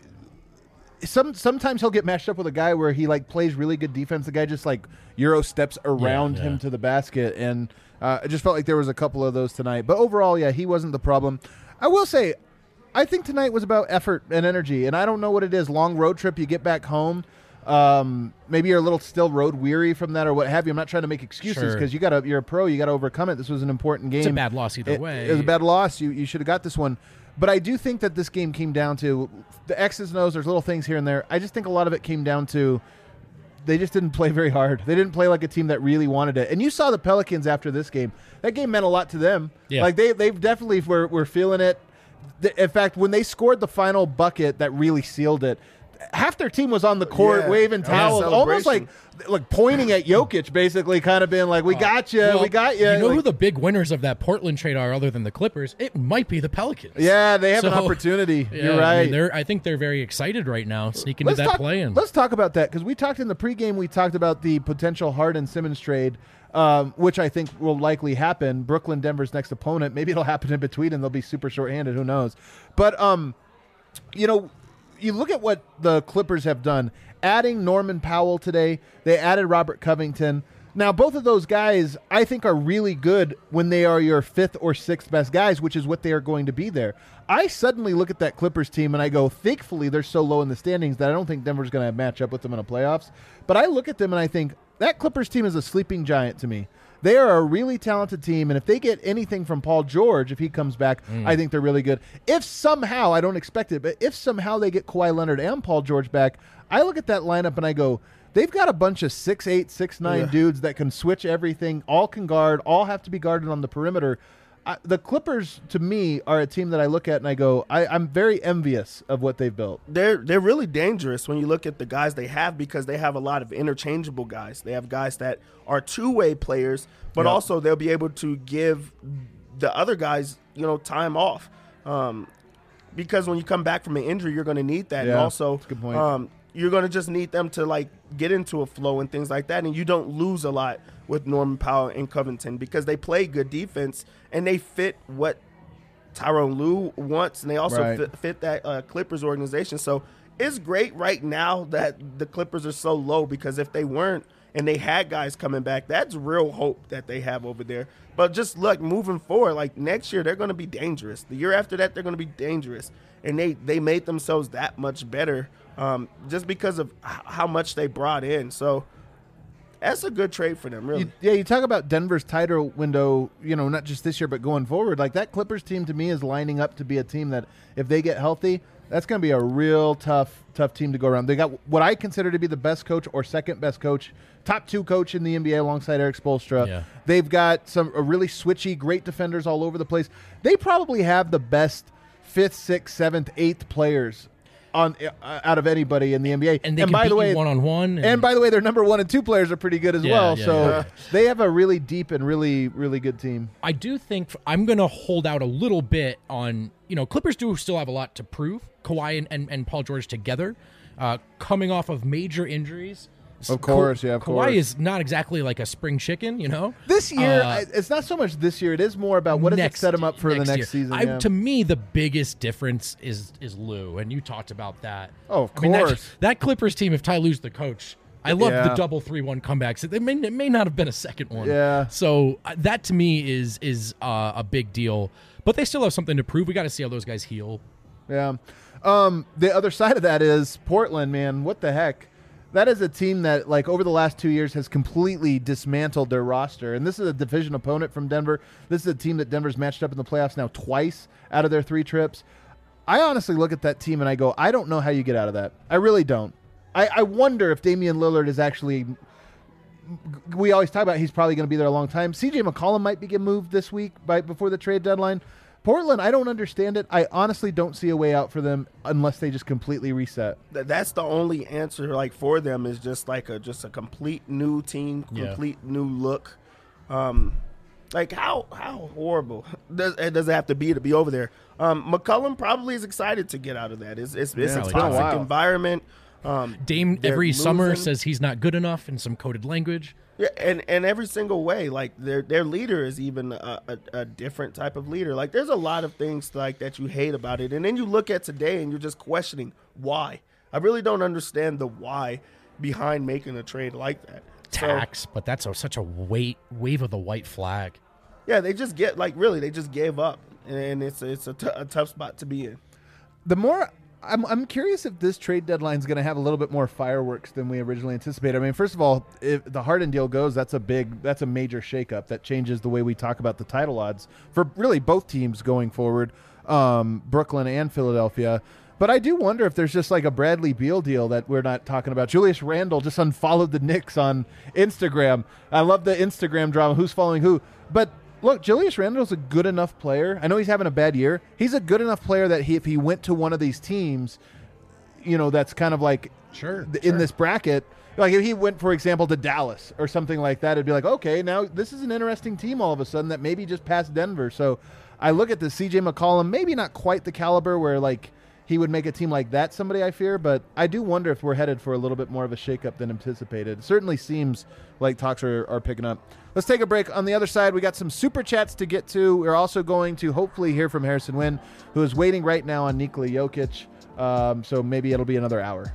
some sometimes he'll get matched up with a guy where he, like, plays really good defense. The guy just, like, Euro steps around Yeah, him yeah. to the basket. And uh, I just felt like there was a couple of those tonight. But overall, yeah, he wasn't the problem. I will say, I think tonight was about effort and energy. And I don't know what it is. Long road trip, you get back home. Um, maybe you're a little still road weary from that or what have you. I'm not trying to make excuses Sure. because you got to you're a pro. You got to overcome it. This was an important game. It's a bad loss either It- way. It was a bad loss. You you should have got this one. But I do think that this game came down to the X's and O's. There's little things here and there. I just think a lot of it came down to they just didn't play very hard. They didn't play like a team that really wanted it. And you saw the Pelicans after this game. That game meant a lot to them. Yeah. Like they they definitely were were feeling it. The- In fact, when they scored the final bucket that really sealed it, half their team was on the court Yeah, waving that was a towels, almost like celebration. like pointing at Jokic, basically, kind of being like, "We got you, Well, we got you." You know like, who the big winners of that Portland trade are other than the Clippers? It might be the Pelicans. yeah, they have an So, opportunity. Yeah, You're I right. mean, they're, I think they're very excited right now, sneaking Let's to that talk, play-in. let's talk about that because we talked in the pregame. We talked about the potential Harden-Simmons trade, um, which I think will likely happen. Brooklyn, Denver's next opponent. Maybe it'll happen in between, and they'll be super shorthanded. Who knows? But um, you know, you look at what the Clippers have done. Adding Norman Powell today, they added Robert Covington. Now, both of those guys, I think, are really good when they are your fifth or sixth best guys, which is what they are going to be there. I suddenly look at that Clippers team and I go, thankfully, they're so low in the standings that I don't think Denver's going to match up with them in the playoffs. But I look at them and I think that Clippers team is a sleeping giant to me. They are a really talented team, and if they get anything from Paul George, if he comes back, I think they're really good. If somehow, I don't expect it, but if somehow they get Kawhi Leonard and Paul George back, I look at that lineup and I go, they've got a bunch of six eight, six nine Yeah. dudes that can switch everything, all can guard, all have to be guarded on the perimeter. I, the Clippers, to me, are a team that I look at and I go, I, I'm very envious of what they've built. They're they're really dangerous when you look at the guys they have because they have a lot of interchangeable guys. They have guys that are two-way players, but Yeah. also they'll be able to give the other guys, you know, time off. Um, because when you come back from an injury, you're going to need that. Yeah, and also, that's a good point. Um, you're going to just need them to, like, get into a flow and things like that. And you don't lose a lot with Norman Powell and Covington because they play good defense and they fit what Tyronn Lue wants, and they also Right. fit, fit that uh, Clippers organization. So it's great right now that the Clippers are so low because if they weren't and they had guys coming back, that's real hope that they have over there. But just look, moving forward, like next year, they're going to be dangerous. The year after that, they're going to be dangerous. And they, they made themselves that much better um, just because of h- how much they brought in. So that's a good trade for them, really. You, yeah, you talk about Denver's title window, you know, not just this year, but going forward. Like that Clippers team to me is lining up to be a team that if they get healthy, that's going to be a real tough, tough team to go around. They got what I consider to be the best coach or second best coach, top two coach in the N B A alongside Eric Spoelstra. Yeah. They've got some a really switchy, great defenders all over the place. They probably have the best fifth, sixth, seventh, eighth players on uh, out of anybody in the N B A. And they and can by beat the way, you one-on-one. And by the way, their number one and two players are pretty good as Yeah, well. yeah, so yeah. they have a really deep and really, really good team. I do think I'm going to hold out a little bit on, you know, Clippers do still have a lot to prove. Kawhi and, and, and Paul George together, uh, coming off of major injuries. Of course, yeah, of Kawhi course. is not exactly like a spring chicken, you know? This year, Uh, I, it's not so much this year. It is more about what does it next- set him up for the next year. season. I, yeah. To me, the biggest difference is is Lou, and you talked about that. Oh, of I mean, that- course. that, Clippers team, if Ty Lue's the coach, I love Yeah. the double three one comebacks. It may, it may not have been a second one. Yeah. So uh, that to me is is uh, a big deal. But they still have something to prove. We got to see how those guys heal. Yeah. Um, the other side of that is Portland, man. What the heck? That is a team that, like, over the last two years has completely dismantled their roster. And this is a division opponent from Denver. This is a team that Denver's matched up in the playoffs now twice out of their three trips. I honestly look at that team and I go, I don't know how you get out of that. I really don't. I, I wonder if Damian Lillard is actually – we always talk about he's probably going to be there a long time. C J McCollum might be getting moved this week by, before the trade deadline. Portland, I don't understand it. I honestly don't see a way out for them unless they just completely reset. Th- That's the only answer, like for them, is just like a just a complete new team, Yeah. complete new look. Um, like how how horrible does it does it have to be to be over there? Um, McCullum probably is excited to get out of that. It's it's, it's Yeah, a it's been a toxic while. environment. Um, Dame they're every summer losing. says he's not good enough in some coded language. Yeah, and, and every single way, like their their leader is even a, a, a different type of leader. Like there's a lot of things like that you hate about it, and then you look at today and you're just questioning why. I really don't understand the why behind making a trade like that. So, Tax, but that's a, such a weight wave of the white flag. yeah, they just get like really they just gave up, and it's it's a, t- a tough spot to be in. The more I'm, I'm curious if this trade deadline is going to have a little bit more fireworks than we originally anticipated. I mean, first of all, if the Harden deal goes, that's a big, that's a major shakeup that changes the way we talk about the title odds for really both teams going forward, um, Brooklyn and Philadelphia. But I do wonder if there's just like a Bradley Beal deal that we're not talking about. Julius Randle just unfollowed the Knicks on Instagram. I love the Instagram drama. Who's following who? But look, Julius Randle's a good enough player. I know he's having a bad year. He's a good enough player that he, if he went to one of these teams, you know, that's kind of like Sure, th- in sure. this bracket, like if he went, for example, to Dallas or something like that, it'd be like, okay, now this is an interesting team all of a sudden that maybe just passed Denver. So I look at the C J McCollum, maybe not quite the caliber where like he would make a team like that somebody I fear, but I do wonder if we're headed for a little bit more of a shakeup than anticipated. It certainly seems like talks are, are picking up. Let's take a break. On the other side, we got some super chats to get to. We're also going to hopefully hear from Harrison Wynn, who is waiting right now on Nikola Jokic. Um, so maybe it'll be another hour.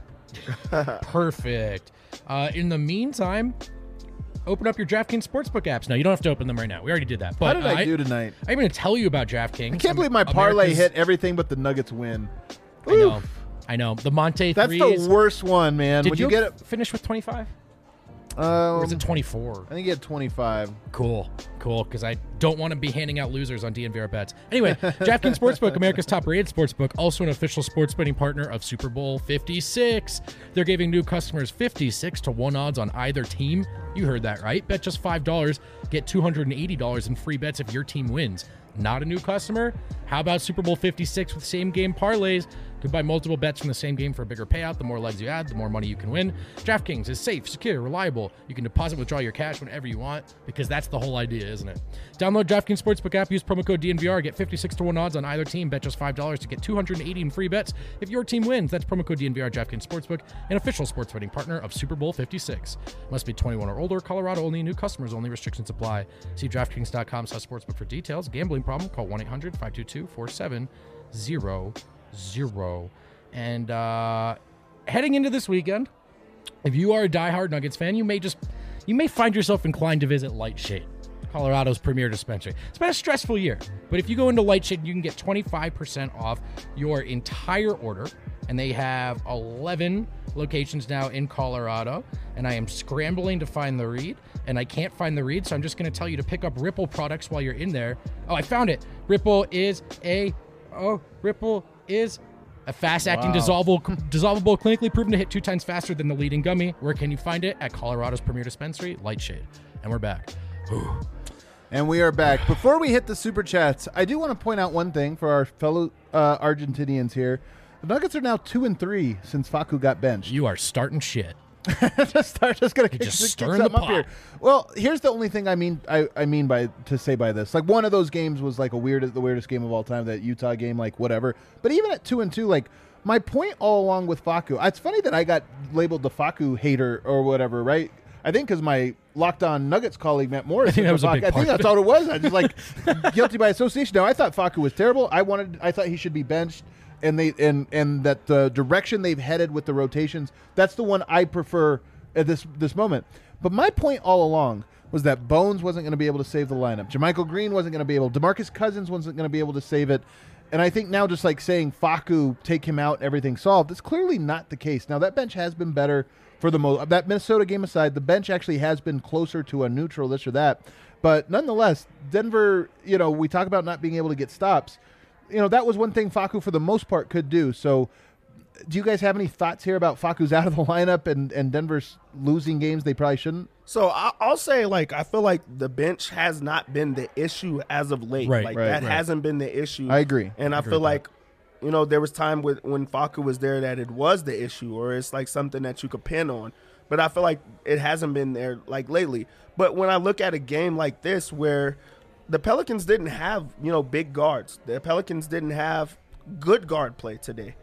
Perfect. Uh, in the meantime, open up your DraftKings Sportsbook apps. Now, you don't have to open them right now. We already did that. But How did I, uh, do tonight? I'm going to tell you about DraftKings. I can't believe my parlay America's- hit everything but the Nuggets win. I know. Oof. I know. The Monte That's threes. the worst one, man. Did when you, you get it, finish with twenty-five? um, Or is it twenty-four? I think you had twenty-five. Cool, cool, because I don't want to be handing out losers on D N V R bets. Anyway, DraftKings Sportsbook, America's top-rated sportsbook, also an official sports betting partner of Super Bowl fifty-six. They're giving new customers fifty-six to one odds on either team. You heard that right. Bet just five dollars, get two hundred eighty dollars in free bets if your team wins. Not a new customer? How about Super Bowl fifty-six with same-game parlays? You can buy multiple bets from the same game for a bigger payout. The more legs you add, the more money you can win. DraftKings is safe, secure, reliable. You can deposit, withdraw your cash whenever you want, because that's the whole idea, isn't it? Download DraftKings Sportsbook app, use promo code D N V R, get fifty-six to one odds on either team. Bet just five dollars to get two hundred eighty in free bets if your team wins. That's promo code D N V R, DraftKings Sportsbook, an official sports betting partner of Super Bowl fifty-six. Must be twenty-one or older. Colorado only. New customers only. Restrictions apply. See DraftKings.com slash sportsbook for details. Gambling problem? Call one eight hundred five two two four seven zero zero. And uh, heading into this weekend, if you are a diehard Nuggets fan, you may just you may find yourself inclined to visit Lightshade, Colorado's premier dispensary. It's been a stressful year, but if you go into Lightshade, you can get twenty-five percent off your entire order, and they have eleven locations now in Colorado, and I am scrambling to find the read, and I can't find the read, so I'm just going to tell you to pick up Ripple products while you're in there. Oh, I found it. Ripple is a, oh, Ripple is a fast-acting, Wow. dissolvable, dissolvable, clinically proven to hit two times faster than the leading gummy. Where can you find it? At Colorado's premier dispensary, Lightshade. And we're back. Whew. And we are back. Before we hit the super chats, I do want to point out one thing for our fellow uh, Argentinians here. The Nuggets are now two and three since Facu got benched. You are starting shit. just start, just gonna kick, just kick stirring something the up here. pot. Well, here's the only thing I mean. I, I mean by to say by this, like one of those games was like a weird, the weirdest game of all time. That Utah game, like whatever. But even at two and two, like my point all along with Facu, it's funny that I got labeled the Facu hater or whatever, right? I think because my Locked On Nuggets colleague Matt Morris. I think that was a big I part think that's of all it was. I just like guilty by association. Now I thought Facu was terrible. I wanted. I thought he should be benched. And they and and that the direction they've headed with the rotations, that's the one I prefer at this this moment. But my point all along was that Bones wasn't going to be able to save the lineup. JaMychal Green wasn't going to be able. DeMarcus Cousins wasn't going to be able to save it. And I think now just like saying Facu, take him out, everything solved, it's clearly not the case. Now that bench has been better for the most. That Minnesota game aside, the bench actually has been closer to a neutral, this or that. But nonetheless, Denver, you know, we talk about not being able to get stops. You know, that was one thing Facu for the most part could do. So do you guys have any thoughts here about Facu's out of the lineup and, and Denver's losing games they probably shouldn't? So I, I'll say, like, I feel like the bench has not been the issue as of late. Right, like right, that right. hasn't been the issue. I agree. And I, I agree feel with like, you know, there was time with when Facu was there that it was the issue, or it's like something that you could pin on. But I feel like it hasn't been there like lately. But when I look at a game like this where the Pelicans didn't have, you know, big guards, the Pelicans didn't have good guard play today.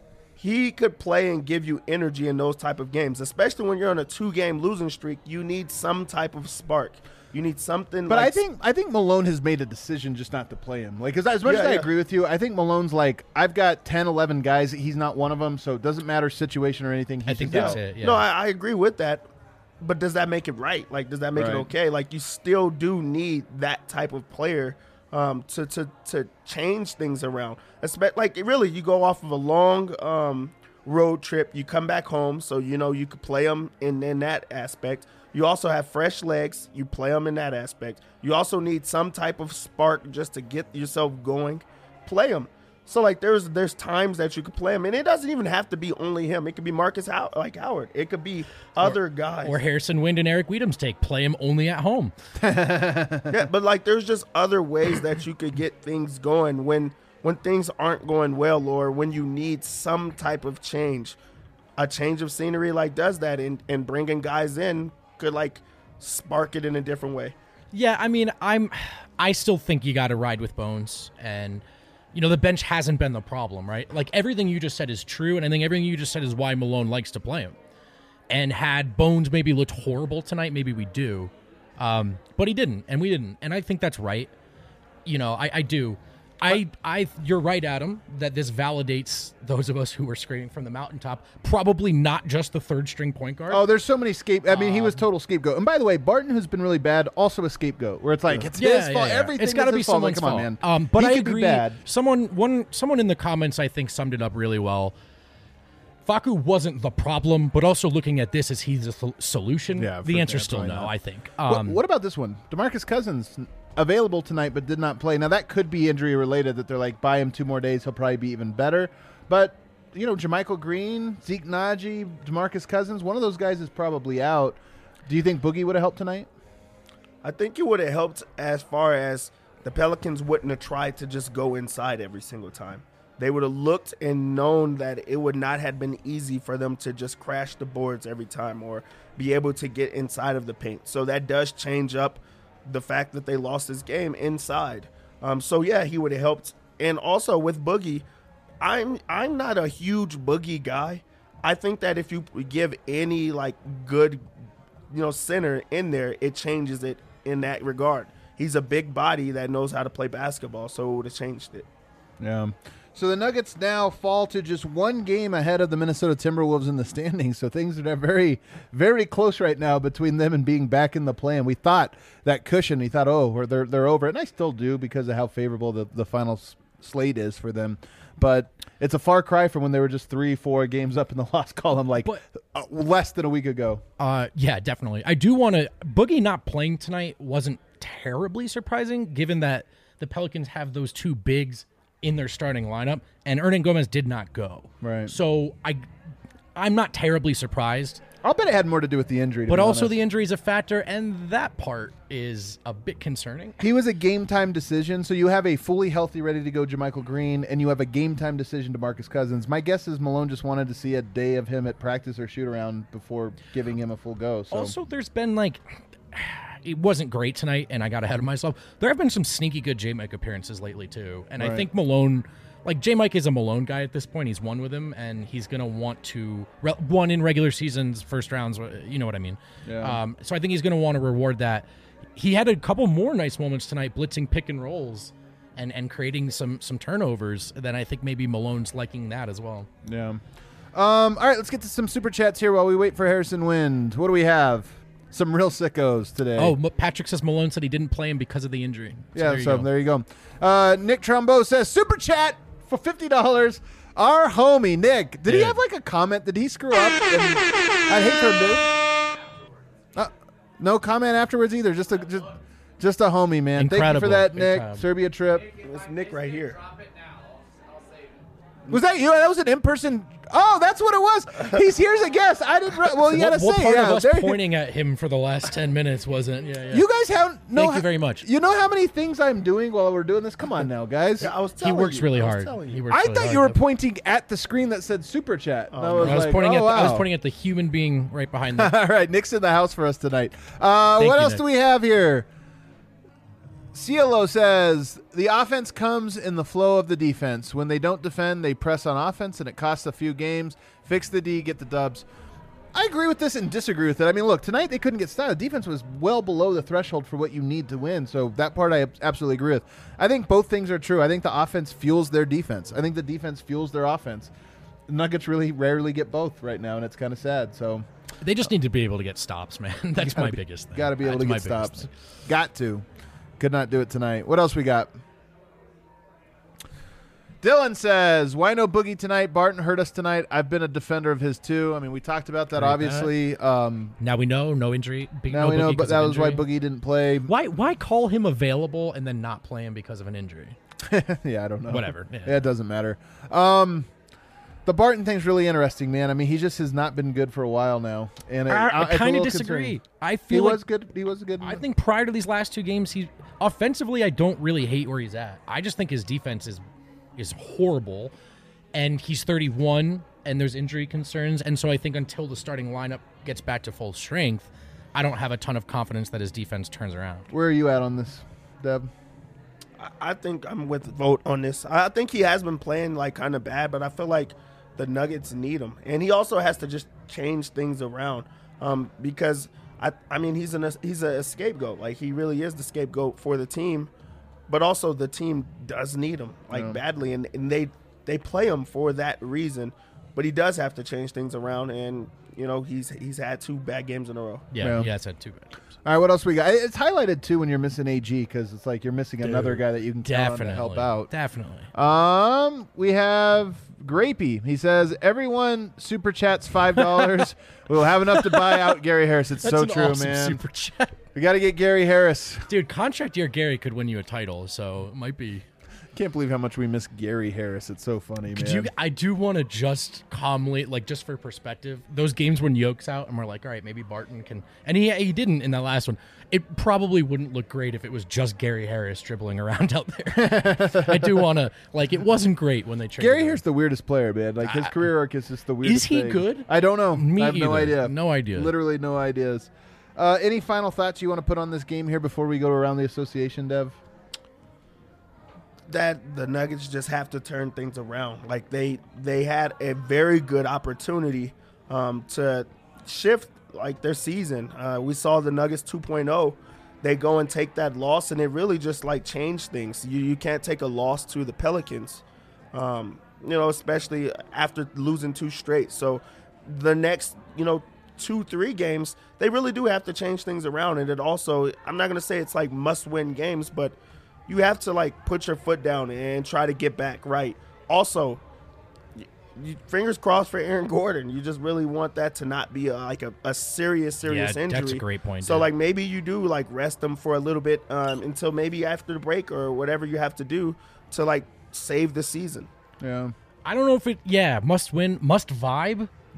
He could play and give you energy in those type of games, especially when you're on a two-game losing streak. You need some type of spark. You need something. But like I think I think Malone has made a decision just not to play him. Like, cause as much Yeah, as I yeah. agree with you, I think Malone's like, I've got ten, eleven guys. He's not one of them, so it doesn't matter situation or anything. He's I think just that's out. it. Yeah. No, I, I agree with that. But does that make it right? Like, does that make Right. it okay? Like, you still do need that type of player um, to to to change things around. Espe- Like, really, you go off of a long um, road trip. You come back home, so you know you could play them in in that aspect. You also have fresh legs. You play them in that aspect. You also need some type of spark just to get yourself going. Play them. So like there's there's times that you could play him, and it doesn't even have to be only him. It could be Marcus How- like Howard. It could be other guys. Or Harrison Wind and Eric Wiedem's take. Play him only at home. Yeah, but like there's just other ways that you could get things going when when things aren't going well, or when you need some type of change. A change of scenery like does that, and and bringing guys in could like spark it in a different way. Yeah, I mean, I'm. I still think you got to ride with Bones, and you know the bench hasn't been the problem, right? Like everything you just said is true, and I think everything you just said is why Malone likes to play him. And had Bones maybe looked horrible tonight, maybe we do, um, but he didn't, and we didn't, and I think that's right. You know, I, I do. I, I, you're right, Adam, that this validates those of us who were screaming from the mountaintop. Probably not just the third string point guard. Oh, there's so many scape. I mean, he Um, was total scapegoat. And by the way, Barton, who's been really bad, also a scapegoat. Where it's like it's his fault. Everything It's got to is be his fault. Like, someone's come fault. on, man. Um, but he I could be agree. bad. Someone, one, someone in the comments, I think, summed it up really well. Facu wasn't the problem, but also looking at this, is he the sol- solution? Yeah, the for- answer's yeah, still probably no. not. I think. What- Um, what, about this one? DeMarcus Cousins available tonight, but did not play. Now that could be injury related. That they're like, buy him two more days, he'll probably be even better. But you know, JaMychal Green, Zeke Naji, DeMarcus Cousins, one of those guys is probably out. Do you think Boogie would have helped tonight? I think it would have helped as far as the Pelicans wouldn't have tried to just go inside every single time. They would have looked and known that it would not have been easy for them to just crash the boards every time or be able to get inside of the paint. So that does change up the fact that they lost this game inside. Um, so, yeah, he would have helped. And also with Boogie, I'm I'm not a huge Boogie guy. I think that if you give any, like, good, you know, center in there, it changes it in that regard. He's a big body that knows how to play basketball, so it would have changed it. Yeah. So the Nuggets now fall to just one game ahead of the Minnesota Timberwolves in the standings. So things are very, very close right now between them and being back in the play. And we thought that cushion, we thought, oh, they're they're over. And I still do because of how favorable the, the final s- slate is for them. But it's a far cry from when they were just three, four games up in the loss column, like But- uh, less than a week ago. Uh, yeah, definitely. I do want to. Boogie not playing tonight wasn't terribly surprising, given that the Pelicans have those two bigs in their starting lineup, and Hernan Gomez did not go. Right. So I, I'm not terribly surprised. I'll bet it had more to do with the injury. To But be also honest. the injury is a factor, and that part is a bit concerning. He was a game time decision, so you have a fully healthy, ready to go JaMychal Green, and you have a game time decision to Marcus Cousins. My guess is Malone just wanted to see a day of him at practice or shoot around before giving him a full go. So. Also, there's been like, it wasn't great tonight, and I got ahead of myself. There have been some sneaky good J-Mike appearances lately too, and Right. I think Malone, like J-Mike is a Malone guy at this point. He's won with him, and he's gonna want to re- one in regular seasons, first rounds. You know what I mean? Yeah. Um, so I think he's gonna want to reward that. He had a couple more nice moments tonight, blitzing pick and rolls, and and creating some some turnovers. Then I think maybe Malone's liking that as well. Yeah. Um, all right, let's get to some super chats here while we wait for Harrison Wind. What do we have? Some real sickos today. Oh, M- Patrick says Malone said he didn't play him because of the injury. So yeah, there you so go. there you go. Uh, Nick Trombo says, super chat for fifty dollars. Our homie, Nick. Did he Dude. have like a comment? Did he screw up? And I'd hate for him to. Uh, no comment afterwards either. Just a, just, just a homie, man. Thank you Incredible. for that, Big Nick. time. Serbia trip. It's Nick right here. Drop it now. I'll, I'll save it. Was that you? That was an in-person. Oh, that's what it was. He's here's a guess. I didn't. Re- well, you what, gotta what say. part yeah, of us there- pointing at him for the last ten minutes wasn't? Yeah, yeah. You guys have no. Thank you very much. You know how many things I'm doing while we're doing this? Come on now, guys. Yeah, I was he telling works you. really I was hard. telling He you. works I really thought hard. you were pointing at the screen that said super chat. And I was, I was like, pointing oh, at. wow. I was pointing at the human being right behind them. All right, Nick's in the house for us tonight. Uh, Thank what you, else Nick. do we have here? Cielo says the offense comes in the flow of the defense. When they don't defend, they press on offense, and it costs a few games. Fix the D, get the dubs. I agree with this and disagree with it. I mean, look, tonight they couldn't get stopped. The defense was well below the threshold for what you need to win, so that part I absolutely agree with. I think both things are true. I think the offense fuels their defense. I think the defense fuels their offense. The Nuggets really rarely get both right now, and it's kind of sad. So They just need to be able to get stops, man. That's my biggest thing. got to be able That's to my get biggest stops. thing. Got to. Could not do it tonight. What else we got? Dylan says, why no Boogie tonight? Barton hurt us tonight. I've been a defender of his too. I mean, we talked about that, Heard obviously. Um, Now we know no injury. Big, now no we know, Boogie but 'cause that of was why injury. Boogie didn't play. Why why call him available and then not play him because of an injury? Yeah, I don't know. Whatever. Yeah. Yeah, it doesn't matter. Um, the Barton thing's really interesting, man. I mean, he just has not been good for a while now, and it, I, uh, I it's a kind of little disagree. concerning. I He feel like was good. He was good. I think prior to these last two games, he offensively I don't really hate where he's at. I just think his defense is is horrible, and he's thirty-one, and there's injury concerns, and so I think until the starting lineup gets back to full strength, I don't have a ton of confidence that his defense turns around. Where are you at on this, Deb? I- I think I'm with Vote on this. I think he has been playing like kind of bad, but I feel like the Nuggets need him, and he also has to just change things around um, because I, I mean, he's an he's a scapegoat. Like he really is the scapegoat for the team, but also the team does need him like Yeah. badly, and, and they they play him for that reason. But he does have to change things around, and you know he's he's had two bad games in a row. Yeah, Yeah. he has had two bad games. All right, what else we got? It's highlighted too when you're missing A G because it's like you're missing another Dude, guy that you can count on Definitely to help out. Definitely. Um, we have Grapey. He says everyone super chats five dollars. We'll have enough to buy out Gary Harris. It's That's so an true, awesome man. Super chat. We got to get Gary Harris. Dude, contract year Gary could win you a title, so it might be. Can't believe how much we miss Gary Harris. It's so funny, Could man. you? I do want to just calmly, like, just for perspective, those games when Yoke's out, and we're like, all right, maybe Barton can, and he he didn't in that last one. It probably wouldn't look great if it was just Gary Harris dribbling around out there. I do want to, like, it wasn't great when they traded Gary him. Harris the weirdest player, man. Like his career arc is just the weirdest. he thing. good? I don't know. Me I have no either. idea. No idea. Literally no ideas. Uh, any final thoughts you want to put on this game here before we go around the association, Dev? That the Nuggets just have to turn things around. Like they they had a very good opportunity um, to shift like their season. Uh, we saw the Nuggets two point oh. They go and take that loss, and it really just like changed things. You you can't take a loss to the Pelicans, um, you know, especially after losing two straight. So the next you know two three games, they really do have to change things around. And it also, I'm not gonna say it's like must win games, but you have to like put your foot down and try to get back right. Also, y you, fingers crossed for Aaron Gordon. You just really want that to not be a, like a, a serious, serious Yeah, injury. that's a great point, So dude. like maybe you do like rest them for a little bit um, until maybe after the break or whatever you have to do to like save the season. Yeah. I don't know if it. Yeah, must win, must vibe. They,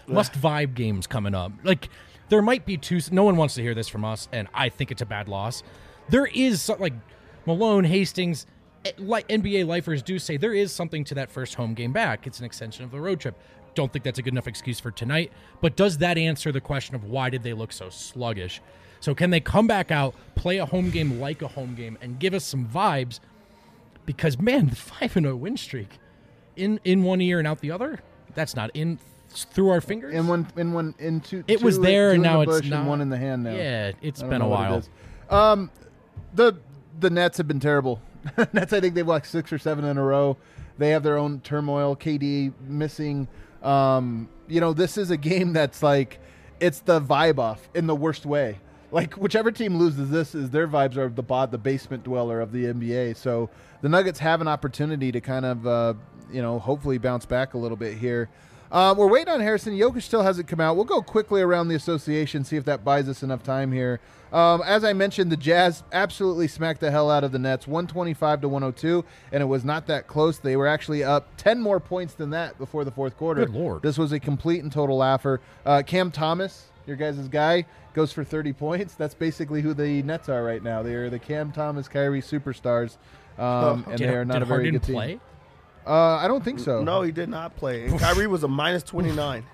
must vibe games coming up. Like there might be two. No one wants to hear this from us, and I think it's a bad loss. There is some, like Malone, Hastings, like N B A lifers do say, there is something to that first home game back. It's an extension of the road trip. Don't think that's a good enough excuse for tonight. But does that answer the question of why did they look so sluggish? So can they come back out, play a home game like a home game, and give us some vibes? Because, man, the five and oh win streak in, in one ear and out the other, that's not in through our fingers. In one, in one, in two. It two was there, two and in now the it's bush not. And one in the hand now. Yeah, it's I don't been a know what it while. is. Um, the the Nets have been terrible. Nets, I think they've like six or seven in a row. They have their own turmoil. K D missing. Um, you know, this is a game that's like, it's the vibe off in the worst way. Like whichever team loses this, is their vibes are the bot, the basement dweller of the N B A. So the Nuggets have an opportunity to kind of, uh, you know, hopefully bounce back a little bit here. Uh, we're waiting on Harrison. Jokic still hasn't come out. We'll go quickly around the association, see if that buys us enough time here. Um, as I mentioned, the Jazz absolutely smacked the hell out of the Nets, one twenty-five to one oh two, and it was not that close. They were actually up ten more points than that before the fourth quarter. Good Lord. This was a complete and total laugher. Uh, Cam Thomas, your guys' guy, goes for thirty points. That's basically who the Nets are right now. They are the Cam Thomas, Kyrie superstars, um, and Did, they are not did a very Harden good team. play? Uh, I don't think so. No, he did not play. And Kyrie was a minus twenty-nine.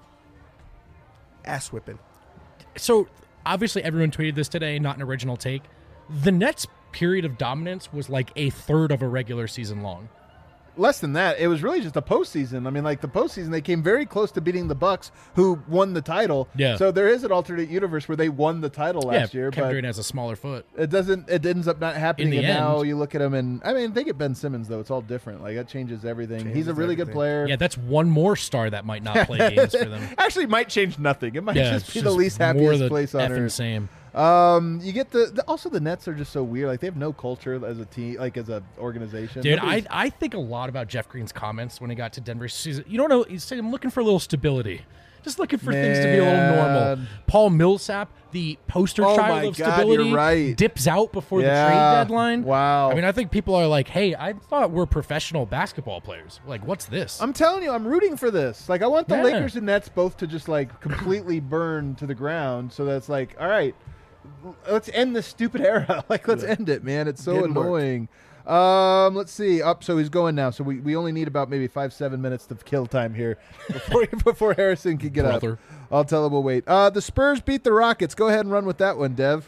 Ass whipping. So obviously everyone tweeted this today, not an original take. The Nets' period of dominance was like a third of a regular season long. Less than that. It was really just a postseason. I mean, like the postseason, they came very close to beating the Bucks, who won the title. Yeah. So there is an alternate universe where they won the title last yeah, year, Kevin but Durant has a smaller foot. it doesn't. It ends up not happening. In the and now end. you look at him, and I mean, they get Ben Simmons though. It's all different. Like that changes everything. He's Changes a really good everything. player. Yeah, that's one more star that might not play games for them. Actually, might change nothing. It might Yeah, just it's be the just least more happiest the place on effing earth. same. Um, you get the, the also the Nets are just so weird. Like they have no culture as a team, like as a organization. Dude, I, Nobody's- I think a lot about Jeff Green's comments when he got to Denver. He's- You don't know. He's saying, I'm looking for a little stability. Just looking for things to be a little normal. Man. Paul Millsap, the poster Oh child my of God, stability, you're right. dips out before the Yeah. trade deadline. Wow. I mean, I think people are like, hey, I thought we're professional basketball players. Like, what's this? I'm telling you, I'm rooting for this. Like, I want the Yeah. Lakers and Nets both to just like completely burn to the ground. So that's like, all right, let's end this stupid era. Like, let's end it, man. It's so Didn't work. annoying. Um, let's see. Up, so he's going now. So we, we only need about maybe five seven minutes of kill time here before before Harrison can get Brother. up. I'll tell him we'll wait. Uh, the Spurs beat the Rockets. Go ahead and run with that one, Dev.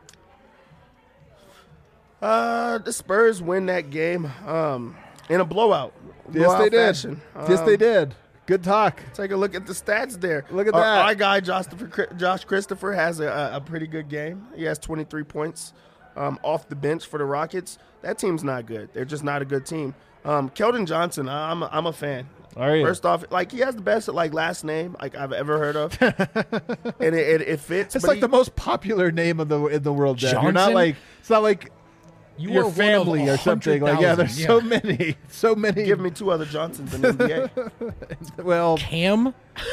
Uh, the Spurs win that game um, in a blowout. Yes, Blowout they did. fashion. yes, they Um, did. Good talk. Take a look at the stats there. Look at our, that. Our guy, Josh, Josh Christopher, has a, a pretty good game. He has twenty-three points um, off the bench for the Rockets. That team's not good. They're just not a good team. Um, Keldon Johnson, I'm a, I'm a fan. Are you? First off, like he has the best like last name like I've ever heard of, and it, it, it fits. It's but like he- the most popular name of the in the world, Dev. You're not Johnson? like it's not like You your are one of family or something. Like yeah, there's so 100,000. many, so many. Give me two other Johnsons in the N B A. well, Cam,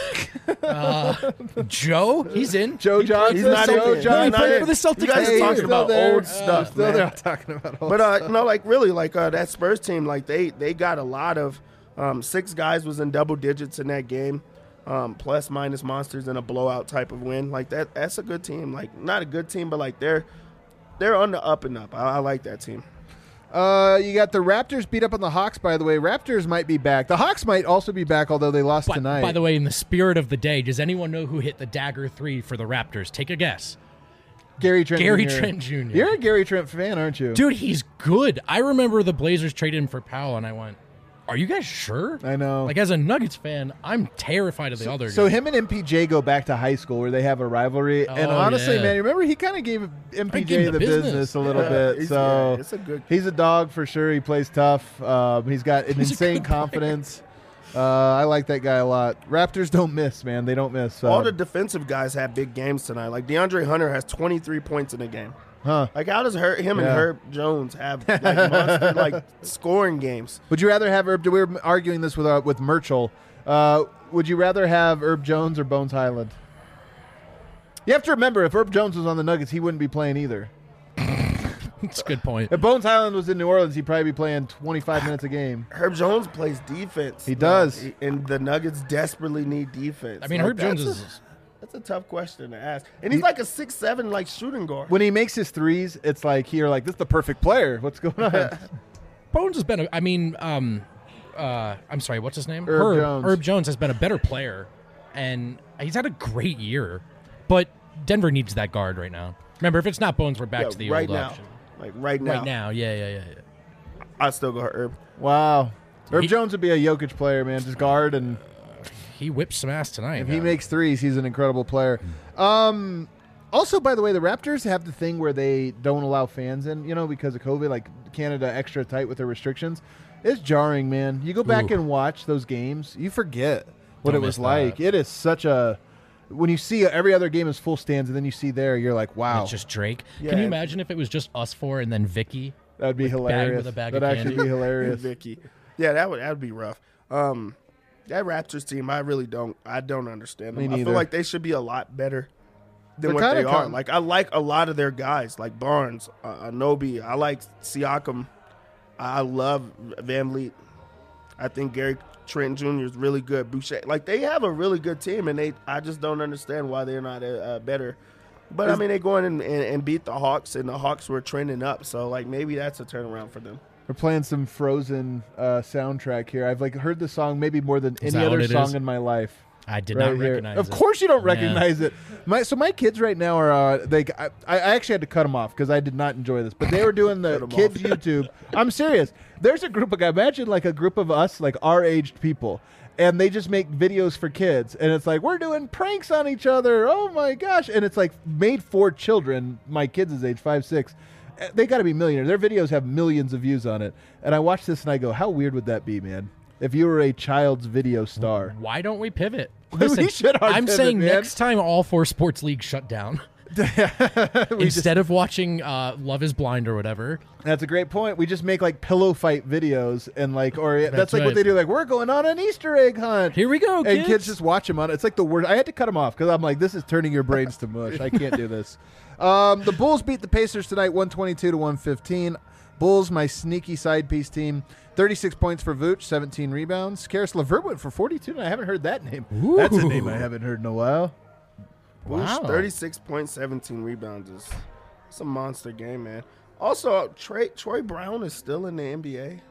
uh, Joe, he's in. Joe He played- Johnson. He's not Joe in. Johnson. He Not played in. for the Celtics. You guys Hey, are talking still about there. old Uh, stuff, Still man. there talking about old But uh, stuff. no, like really, like uh, that Spurs team, like they they got a lot of um, six guys was in double digits in that game, um, plus minus monsters in a blowout type of win. Like that, that's a good team. Like not a good team, but like they're they're on the up and up. I, I like that team. Uh, you got the Raptors beat up on the Hawks. By the way, Raptors might be back. The Hawks might also be back, although they lost By, tonight. by the way, in the spirit of the day, does anyone know who hit the dagger three for the Raptors? Take a guess. Gary Trent. Gary Junior Trent Junior You're a Gary Trent fan, aren't you? Dude, he's good. I remember the Blazers traded him for Powell, and I went, are you guys sure? I know. Like, as a Nuggets fan, I'm terrified of the other So guy. him and M P J go back to high school where they have a rivalry. and Oh, honestly, yeah. man, remember he kind of gave M P J gave him the the business. business. a little Yeah, bit. he's- So yeah, it's a good- he's a dog for sure. He plays tough. Um, he's got an He's a insane good player. confidence. Uh, I like that guy a lot. Raptors don't miss, man. They don't miss. All Um, the defensive guys had big games tonight. Like DeAndre Hunter has twenty-three points in a game. huh? Like how does her, him and Yeah. Herb Jones have like monster like scoring games? Would you rather have Herb? We were arguing this with uh, with Merchel. Uh, would you rather have Herb Jones or Bones Highland? You have to remember, if Herb Jones was on the Nuggets, he wouldn't be playing either. It's a good point. If Bones Highland was in New Orleans, he'd probably be playing twenty-five minutes a game. Herb Jones plays defense. He does. He- and the Nuggets desperately need defense. I mean, Like, Herb Jones that's is. a, that's a tough question to ask. And he's like a six seven like shooting guard. When he makes his threes, it's like you're like, this is the perfect player. What's going on? Bones has been. A, I mean, um, uh, I'm sorry. What's his name? Herb Jones. Herb Jones has been a better player, and he's had a great year. But Denver needs that guard right now. Remember, if it's not Bones, we're back Yeah, to the right old now. option. Like right now. Right now, yeah, yeah, yeah, yeah. I'd still go Herb. Wow. Herb He- Jones would be a Jokic player, man. Just guard, and He whipped some ass tonight. if he man. makes threes, he's an incredible player. Um, also, by the way, the Raptors have the thing where they don't allow fans in, you know, because of COVID, like Canada extra tight with their restrictions. It's jarring, man. You go back Ooh. and watch those games, you forget what Don't it was miss like. that. It is such a... When you see every other game is full stands, and then you see there, you're like, wow, It's just Drake. Yeah, Can you and- imagine if it was just us four and then Vicky? that would be bag hilarious. with a bag of That'd actually candy. be hilarious. Vicky. Yeah, that would that would be rough. Um, that Raptors team, I really don't. I don't understand them. Me I neither. feel like they should be a lot better than They're what they kinda are. com- Like I like a lot of their guys, like Barnes, uh, Anobi. I like Siakam. I love Van Vliet. I think Gary Trent Junior is really good. Boucher, like they have a really good team, and they. I just don't understand why they're not uh, better. But I mean, they go in and, and, and beat the Hawks, and the Hawks were trending up. So like maybe that's a turnaround for them. We're playing some Frozen uh, soundtrack here. I've like heard the song maybe more than Is any that what other it song is? in my life. I did right not here. recognize Of it. course you don't Yeah. recognize it. My so my kids right now are uh, they I, I actually had to cut them off because I did not enjoy this. But they were doing the Cut 'em kids off. YouTube. I'm serious. There's a group of guys. Imagine like a group of us, like our aged people. And they just make videos for kids, and it's like we're doing pranks on each other. Oh my gosh! And it's like made for children. My kids' is age five, six. Uh, They got to be millionaires. Their videos have millions of views on it. And I watch this and I go, how weird would that be, man? If you were a child's video star. Why don't we pivot? We Listen, should hard I'm pivot, saying man. next time all four sports leagues shut down. Instead of watching uh, Love is Blind or whatever. That's a great point. We just make like pillow fight videos and like, or that's, That's like what right. they do. Like, we're going on an Easter egg hunt. Here we go, And kids. kids just watch them on it. It's like the worst. I had to cut them off because I'm like, this is turning your brains to mush. I can't do this. Um, the Bulls beat the Pacers tonight, one twenty-two to one fifteen. Bulls, my sneaky side piece team. thirty-six points for Vooch, seventeen rebounds. Karis LeVert went for forty-two, and I haven't heard that name. That's a name I haven't heard in a while. Wow. Boosh, thirty-six point seventeen rebounds is it's a monster game, man. Also, Trey, Troy Brown is still in the N B A.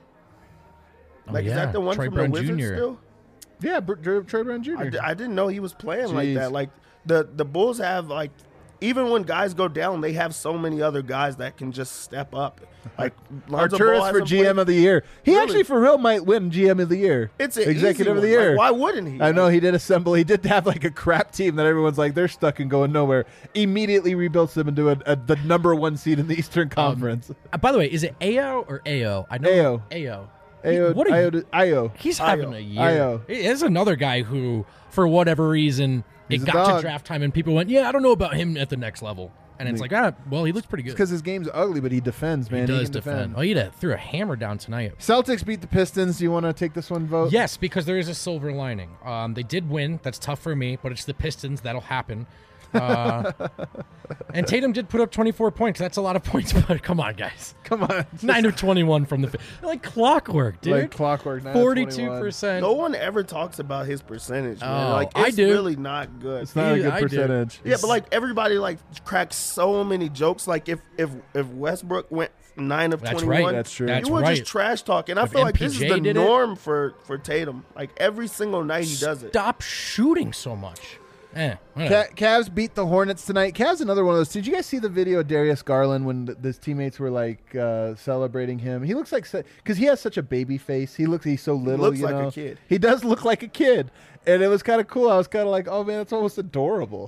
Oh, Like, is yeah. that the one Troy from Brown the Wizards Junior still? Yeah, Br- Dr- Troy Brown I, Junior di- I didn't know he was playing like Jeez. that. Like, the, the Bulls have, like, even when guys go down, they have so many other guys that can just step up. Like, Lonzo Ball Arturis for hasn't G M played- of the year. He Really? actually, for real, might win G M of the year. It's an executive easy of the one. year. Like, why wouldn't he? I know he did assemble. He did have like a crap team that everyone's like they're stuck and going nowhere. Immediately rebuilds them into a, a, the number one seed in the Eastern Conference. Uh, by the way, is it A O or A O? I know Ayo. Ayo. Ayo, what a, Ayo, Ayo. he's Ayo. having a year. Ayo. There's another guy who, for whatever reason, He's it a got to dog. draft time and people went, yeah, I don't know about him at the next level. And it's like, ah, well, he looks pretty good. Because his game's ugly, but he defends, man. He does can defend. Oh, he did- threw a hammer down tonight. Celtics beat the Pistons. Do you want to take this one vote? Yes, because there is a silver lining. Um, they did win. That's tough for me, but it's the Pistons. That'll happen. Uh, and Tatum did put up twenty-four points. That's a lot of points, but come on, guys. Come on. nine of twenty-one from the fi- like clockwork, dude. Like clockwork. nine of Forty-two twenty-one. percent. No one ever talks about his percentage, man. Oh, like, I it's do. really not good. It's not a Yeah, good I do. percentage. Yeah, but like everybody like cracks so many jokes. Like if if if Westbrook went nine of That's twenty one, right. That's true. That's you would right. just trash talk. And I If feel like this is M P J the did it- norm for for Tatum. Like every single night he does it. Stop shooting so much. Eh, whatever. Ca- Cavs beat the Hornets tonight. Cavs another one of those. Did you guys see the video of Darius Garland when th- his teammates were like uh, celebrating him? He looks like because he has such a baby face. He looks he's so little. looks you like a know? kid. He does look like a kid, and it was kind of cool. I was kind of like, oh man, it's almost adorable.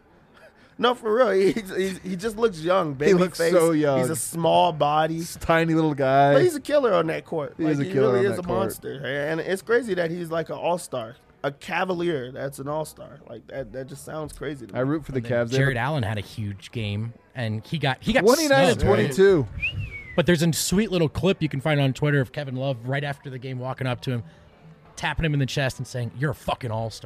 No, for real. He he's, he just looks young. Baby looks face. so young. He's a small body. This tiny little guy. But he's a killer on that court. He Like, is a he killer really on is that a court. monster. And it's crazy that he's like an all star. A Cavalier that's an all star. Like that that just sounds crazy to me. I root for the And then Cavs. They Jared have Allen had a huge game, and he got he got twenty-nine and snubbed, right? twenty-two. But there's a sweet little clip you can find on Twitter of Kevin Love right after the game walking up to him, tapping him in the chest and saying, "You're a fucking all-star."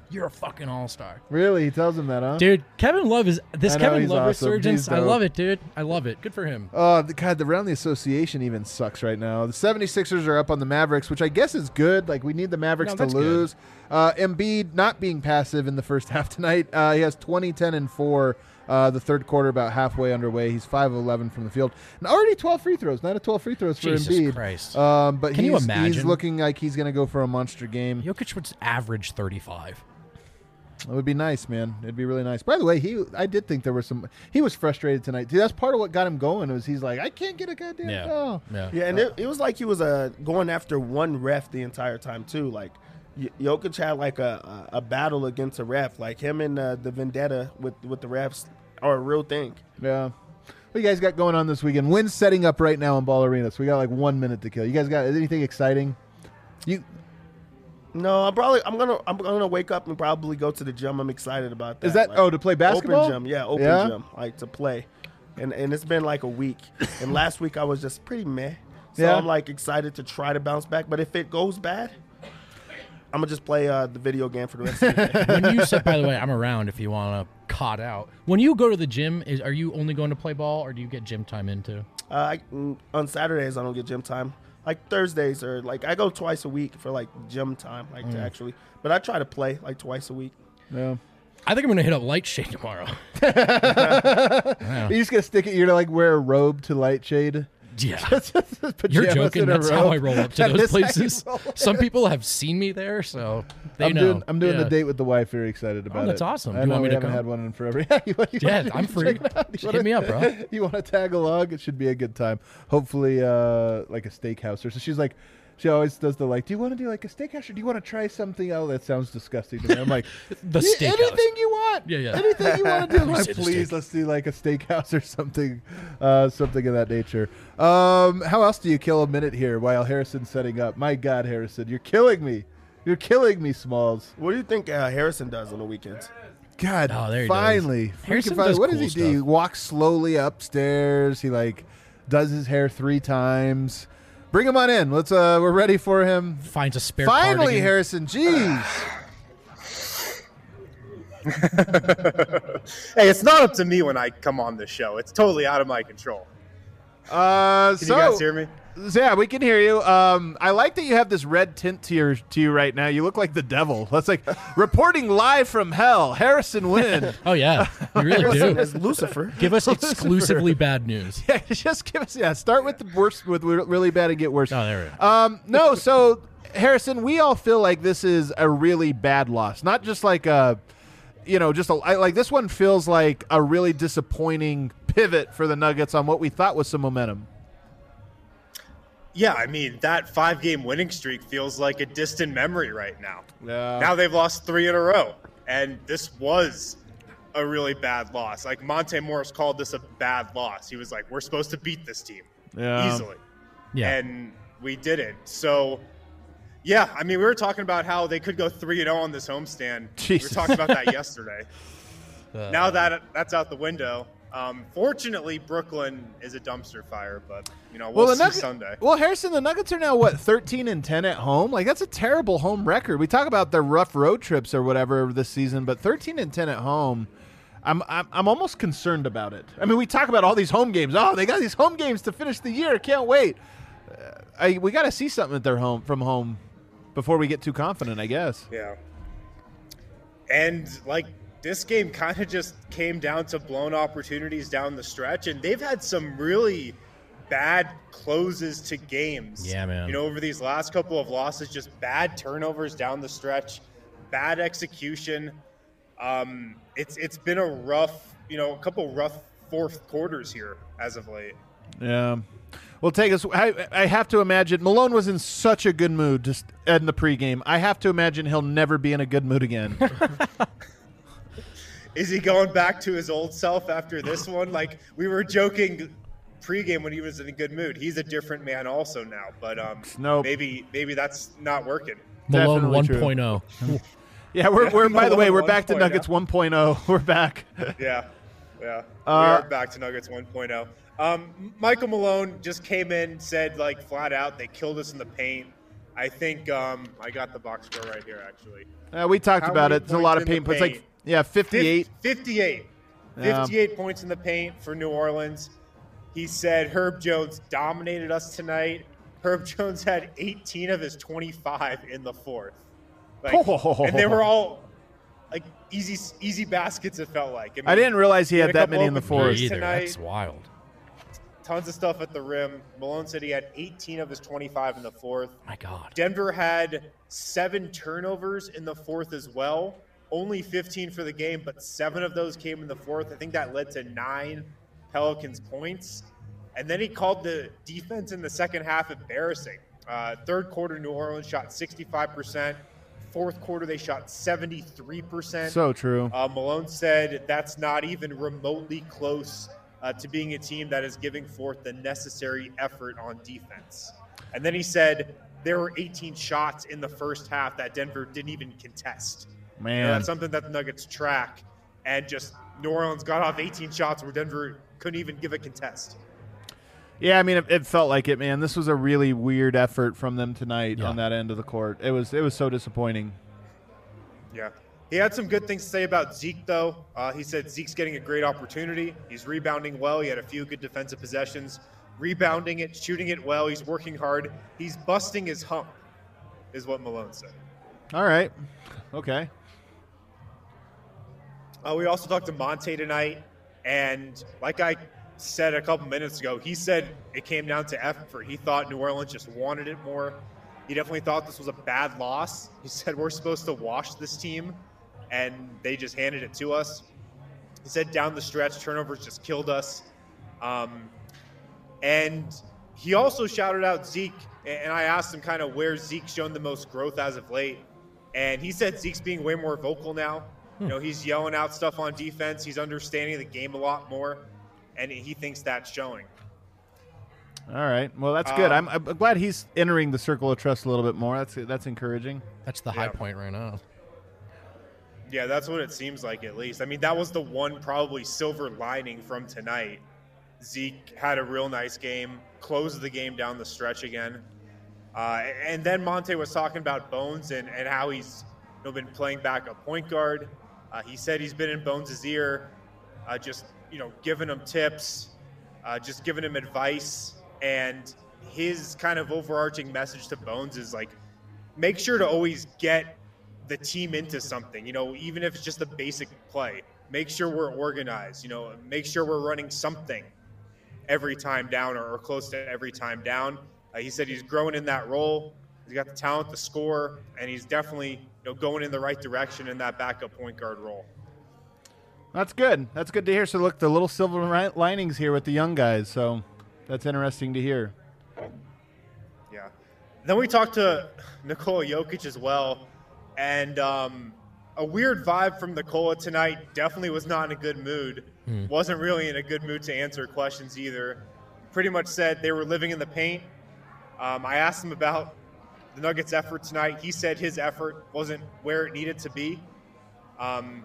you're a fucking all-star. Really? He tells him that, huh? Dude, Kevin Love is this I know, Kevin he's Love awesome. resurgence. He's I dope. love it, dude. I love it. Good for him. Oh, the, God, the around the association even sucks right now. The 76ers are up on the Mavericks, which I guess is good. Like, we need the Mavericks No, to that's good. lose. Uh, Embiid not being passive in the first half tonight. Uh, he has twenty, ten, and four. Uh, the third quarter about halfway underway. He's five of eleven from the field. And already twelve free throws. nine of twelve free throws for Jesus Embiid. Christ. Um, but Can you he's, he's imagine? looking like he's going to go for a monster game. Jokic would average thirty-five. It would be nice, man. It'd be really nice. By the way, he I did think there was some. He was frustrated tonight. Dude, that's part of what got him going. Was he's like, I can't get a goddamn Yeah. foul. Yeah. Yeah, and it, it was like he was uh, going after one ref the entire time too. Like Y- Jokic had like a, a a battle against a ref. Like him and uh, the vendetta with with the refs are a real thing. Yeah. What you guys got going on this weekend? Wind's setting up right now in Ball Arena, so we got like one minute to kill. You guys got anything exciting? You No, I'm probably I'm gonna I'm gonna wake up and probably go to the gym. I'm excited about that. is that Like, oh to play basketball? Open gym, yeah, open Yeah? gym, like to play, and and it's been like a week. And last week I was just pretty meh. So Yeah. I'm like excited to try to bounce back. But if it goes bad, I'm gonna just play uh, the video game for the rest of the day. When you said, by the way, I'm around if you want to cot out. When you go to the gym, is are you only going to play ball, or do you get gym time in too? Uh, I, mm, on Saturdays I don't get gym time. Like Thursdays or like I go twice a week for like gym time, like to actually. But I try to play like twice a week. Yeah. I think I'm going to hit up Light Shade tomorrow. Are you just gonna stick it? You're gonna like wear a robe to light shade. Yeah. Pajamas You're joking. in a That's how I robe. roll up to That those is how you places. roll. Some people have seen me there, so they I'm know. doing, I'm doing Yeah. the date with the wife. Very excited about it. that's awesome. I You know want me we to haven't come? had one in forever. Yeah, you, want- you Yeah, want- I'm you free. check it out? You Just wanna- hit me up, bro. You want to tag along? It should be a good time. Hopefully, uh, like a steakhouse or so. She's like, she always does the like. Do you want to do like a steakhouse or do you want to try something else? That sounds disgusting to me. I'm like, The "Yeah, steakhouse." anything you want. Yeah, yeah. Anything you want to do. I'm We like, say the please, steak. let's do like a steakhouse or something, uh, something of that nature. Um, how else do you kill a minute here while Harrison's setting up? My God, Harrison, you're killing me. You're killing me, Smalls. What do you think uh, Harrison does on the weekends? God, Oh, there he finally. does. Harrison Freaking finally. does What cool does he do? stuff. He walks slowly upstairs. He like does his hair three times. Bring him on in. Let's. Uh, we're ready for him. Finds a spare Finally, cardigan. Harrison. Jeez. Hey, it's not up to me when I come on the show. It's totally out of my control. Uh, Can so you guys hear me? yeah, we can hear you. Um, I like that you have this red tint to your to you right now. You look like the devil. That's like reporting live from hell. Harrison Wynn. Oh, yeah. You really Harrison do. is Lucifer. Give us exclusively bad news. Yeah, just give us. Yeah, start with the worst, with really bad and get worse. Oh, there we go. Um, no, so Harrison, we all feel like this is a really bad loss, not just like a, you know, just a I- like this one feels like a really disappointing pivot for the Nuggets on what we thought was some momentum. Yeah, I mean, that five-game winning streak feels like a distant memory right now. Yeah. Now they've lost three in a row, and this was a really bad loss. Like, Monte Morris called this a bad loss. He was like, we're supposed to beat this team Yeah. easily. Yeah. And we didn't. So, yeah, I mean, we were talking about how they could go three and oh on this homestand. Jesus. We were talking about that yesterday. Uh, Now that that's out the window. Um, fortunately, Brooklyn is a dumpster fire, but you know we'll, the see Nugget- Sunday. Well, Harrison, the Nuggets are now what thirteen and ten at home. Like that's a terrible home record. We talk about their rough road trips or whatever this season, but thirteen and ten at home. I'm, I'm I'm almost concerned about it. I mean, we talk about all these home games. Oh, they got these home games to finish the year. Can't wait. Uh, I, we got to see something at their home from home before we get too confident, I guess. Yeah. And like this game kind of just came down to blown opportunities down the stretch, and they've had some really bad closes to games. Yeah, man. You know, over these last couple of losses, just bad turnovers down the stretch, bad execution. Um, it's it's been a rough, you know, a couple rough fourth quarters here as of late. Yeah. Well, take us. I, I have to imagine Malone was in such a good mood just in the pregame. I have to imagine he'll never be in a good mood again. Is he going back to his old self after this one? Like we were joking pregame when he was in a good mood. He's a different man also now, but um, Nope. maybe maybe that's not working. Malone Definitely true. 1.0. Yeah, we're, we're by the way, we're Malone back to 1.0. Nuggets one point oh. We're back. Yeah, yeah. Uh, we are back to Nuggets one point oh. Um, Michael Malone just came in, said like flat out, they killed us in the paint. I think um, I got the box score right here, actually. Uh, we talked How about many it. It's a lot of points in paint. the It's like, paint? yeah, fifty-eight. fifty-eight. Yeah. fifty-eight points in the paint for New Orleans. He said Herb Jones dominated us tonight. Herb Jones had eighteen of his twenty-five in the fourth. Like, and they were all like easy easy baskets, it felt like. I, mean, I didn't realize he had a that couple many in the open fourth. threes Either. tonight. That's wild. Tons of stuff at the rim. Malone said he had eighteen of his twenty-five in the fourth. My God. Denver had seven turnovers in the fourth as well. Only fifteen for the game, but seven of those came in the fourth. I think that led to nine Pelicans points. And then he called the defense in the second half embarrassing. Uh, third quarter, New Orleans shot sixty-five percent. Fourth quarter, they shot seventy-three percent. So true. Uh, Malone said that's not even remotely close uh, to being a team that is giving forth the necessary effort on defense. And then he said there were eighteen shots in the first half that Denver didn't even contest. You know, Man. that's something that the Nuggets track. And just New Orleans got off eighteen shots where Denver couldn't even give a contest. Yeah, I mean, it, it felt like it, man. This was a really weird effort from them tonight Yeah. on that end of the court. It was it was so disappointing. Yeah. He had some good things to say about Zeke, though. Uh, he said Zeke's getting a great opportunity. He's rebounding well. He had a few good defensive possessions. Rebounding it, shooting it well. He's working hard. He's busting his hump, is what Malone said. All right. Okay. Uh, we also talked to Monte tonight, and like I said a couple minutes ago, he said it came down to effort. He thought New Orleans just wanted it more. He definitely thought this was a bad loss. He said we're supposed to wash this team, and they just handed it to us. He said down the stretch, turnovers just killed us. Um, and he also shouted out Zeke, and I asked him kind of where Zeke's shown the most growth as of late. And he said Zeke's being way more vocal now. You know, he's yelling out stuff on defense. He's understanding the game a lot more, and he thinks that's showing. All right. Well, that's good. Um, I'm, I'm glad he's entering the circle of trust a little bit more. That's that's encouraging. That's the high Yeah. point right now. Yeah, that's what it seems like at least. I mean, that was the one probably silver lining from tonight. Zeke had a real nice game, closed the game down the stretch again. Uh, and then Monte was talking about Bones and, and how he's you know, been playing backup point guard. Uh, he said he's been in Bones' ear, uh, just you know, giving him tips, uh, just giving him advice. And his kind of overarching message to Bones is like, make sure to always get the team into something, you know, even if it's just a basic play. Make sure we're organized, you know, make sure we're running something every time down or, or close to every time down. Uh, he said he's growing in that role. He's got the talent to score, and he's definitely you know going in the right direction in that backup point guard role. That's good. That's good to hear. So look, the little silver ri- linings here with the young guys. So that's interesting to hear. Yeah. Then we talked to Nikola Jokic as well, and um, a weird vibe from Nikola tonight. Definitely was not in a good mood. Hmm. Wasn't really in a good mood to answer questions either. Pretty much said they were living in the paint. Um, I asked him about the Nuggets' effort tonight. He said his effort wasn't where it needed to be. Um,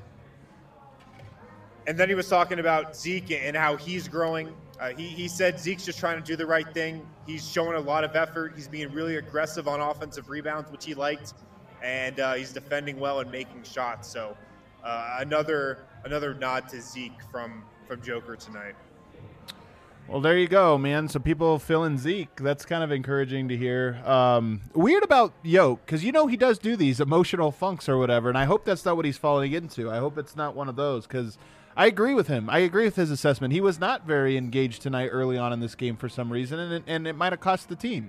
and then he was talking about Zeke and how he's growing. Uh, he, he said Zeke's just trying to do the right thing. He's showing a lot of effort. He's being really aggressive on offensive rebounds, which he liked. And uh, he's defending well and making shots. So uh, another another nod to Zeke from, from Joker tonight. Well, there you go, man. So people feeling Zeke. That's kind of encouraging to hear. Um, weird about Yoke, because you know he does do these emotional funks or whatever, and I hope that's not what he's falling into. I hope it's not one of those, because I agree with him. I agree with his assessment. He was not very engaged tonight early on in this game for some reason, and it, and it might have cost the team.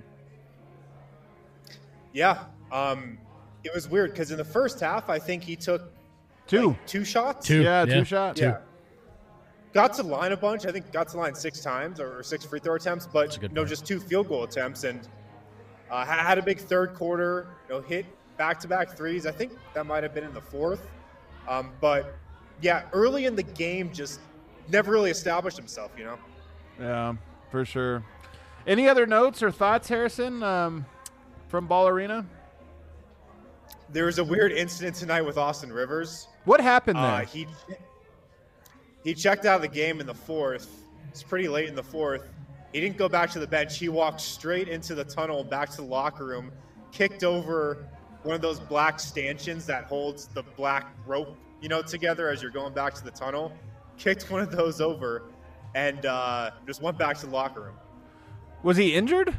Yeah. Um, it was weird because in the first half, I think he took Two. like, two shots. Two. Yeah, Yeah. two shots. Yeah. Got to the line a bunch. I think got to the line six times or six free throw attempts, but a good no, point. just two field goal attempts, and uh, ha- had a big third quarter. You know, hit back to back threes. I think that might have been in the fourth, um, but yeah, early in the game, just never really established himself. You know. Yeah, for sure. Any other notes or thoughts, Harrison, um, from Ball Arena? There was a weird incident tonight with Austin Rivers. What happened there? Uh, he he checked out of the game in the fourth. It's pretty late in the fourth. He didn't go back to the bench. He walked straight into the tunnel, back to the locker room, kicked over one of those black stanchions that holds the black rope, you know, together as you're going back to the tunnel. Kicked one of those over and uh, just went back to the locker room. Was he injured?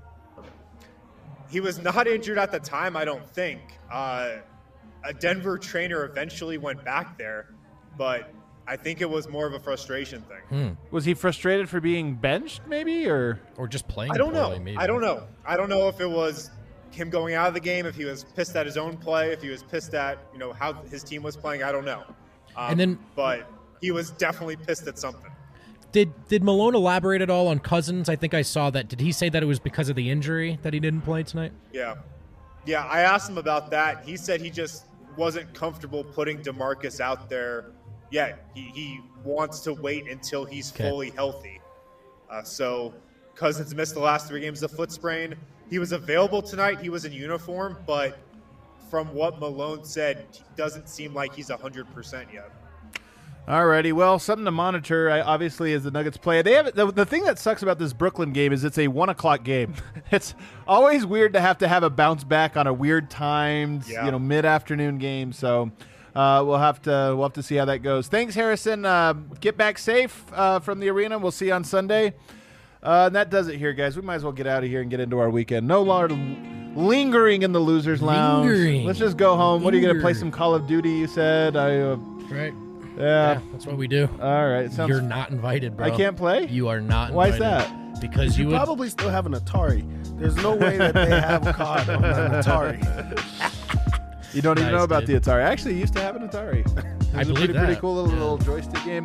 He was not injured at the time, I don't think. Uh, a Denver trainer eventually went back there, but I think it was more of a frustration thing. Hmm. Was he frustrated for being benched, maybe, or Or just playing I don't poorly, know. maybe. I don't know. I don't know if it was him going out of the game, if he was pissed at his own play, if he was pissed at, you know, how his team was playing. I don't know. Um, And then- but he was definitely pissed at something. Did did Malone elaborate at all on Cousins? I think I saw that. Did he say that it was because of the injury that he didn't play tonight? Yeah. Yeah, I asked him about that. He said he just wasn't comfortable putting DeMarcus out there yet. He, he wants to wait until he's Okay. fully healthy. Uh, so Cousins missed the last three games of foot sprain. He was available tonight. He was in uniform, but from what Malone said, he doesn't seem like he's one hundred percent yet. Alrighty, well, something to monitor, I, obviously, as the Nuggets play. They have the, the thing that sucks about this Brooklyn game is it's a one o'clock game. It's always weird to have to have a bounce back on a weird timed, Yeah. you know, mid afternoon game. So uh, we'll have to we'll have to see how that goes. Thanks, Harrison. Uh, get back safe uh, from the arena. We'll see you on Sunday. Uh, and that does it here, guys. We might as well get out of here and get into our weekend. No longer lingering in the losers' lounge. Lingering. Let's just go home. What are you going to play? Linger. Some Call of Duty? You said. I. Uh, Right. yeah. Yeah, that's what we do. All right. It sounds. You're not invited, bro. I can't play? You are not Why is invited. that? Because you You would probably still have an Atari. There's no way that they have C O D on an Atari. You don't even Nice, know about dude. the Atari. I actually used to have an Atari. It was I a believe pretty, pretty that. cool little, Yeah. little joystick game.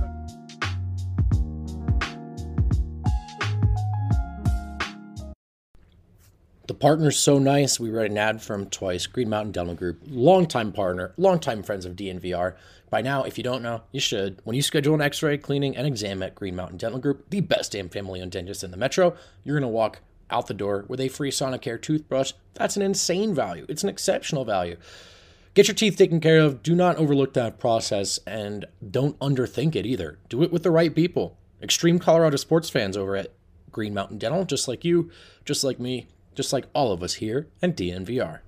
The partner's so nice, we read an ad from Twice, Green Mountain Dental Group, longtime partner, longtime friends of D N V R. By now, if you don't know, you should. When you schedule an x-ray, cleaning, and exam at Green Mountain Dental Group, the best damn family-owned dentist in the metro, you're going to walk out the door with a free Sonicare toothbrush. That's an insane value. It's an exceptional value. Get your teeth taken care of. Do not overlook that process, and don't underthink it either. Do it with the right people. Extreme Colorado sports fans over at Green Mountain Dental, just like you, just like me, just like all of us here at D N V R.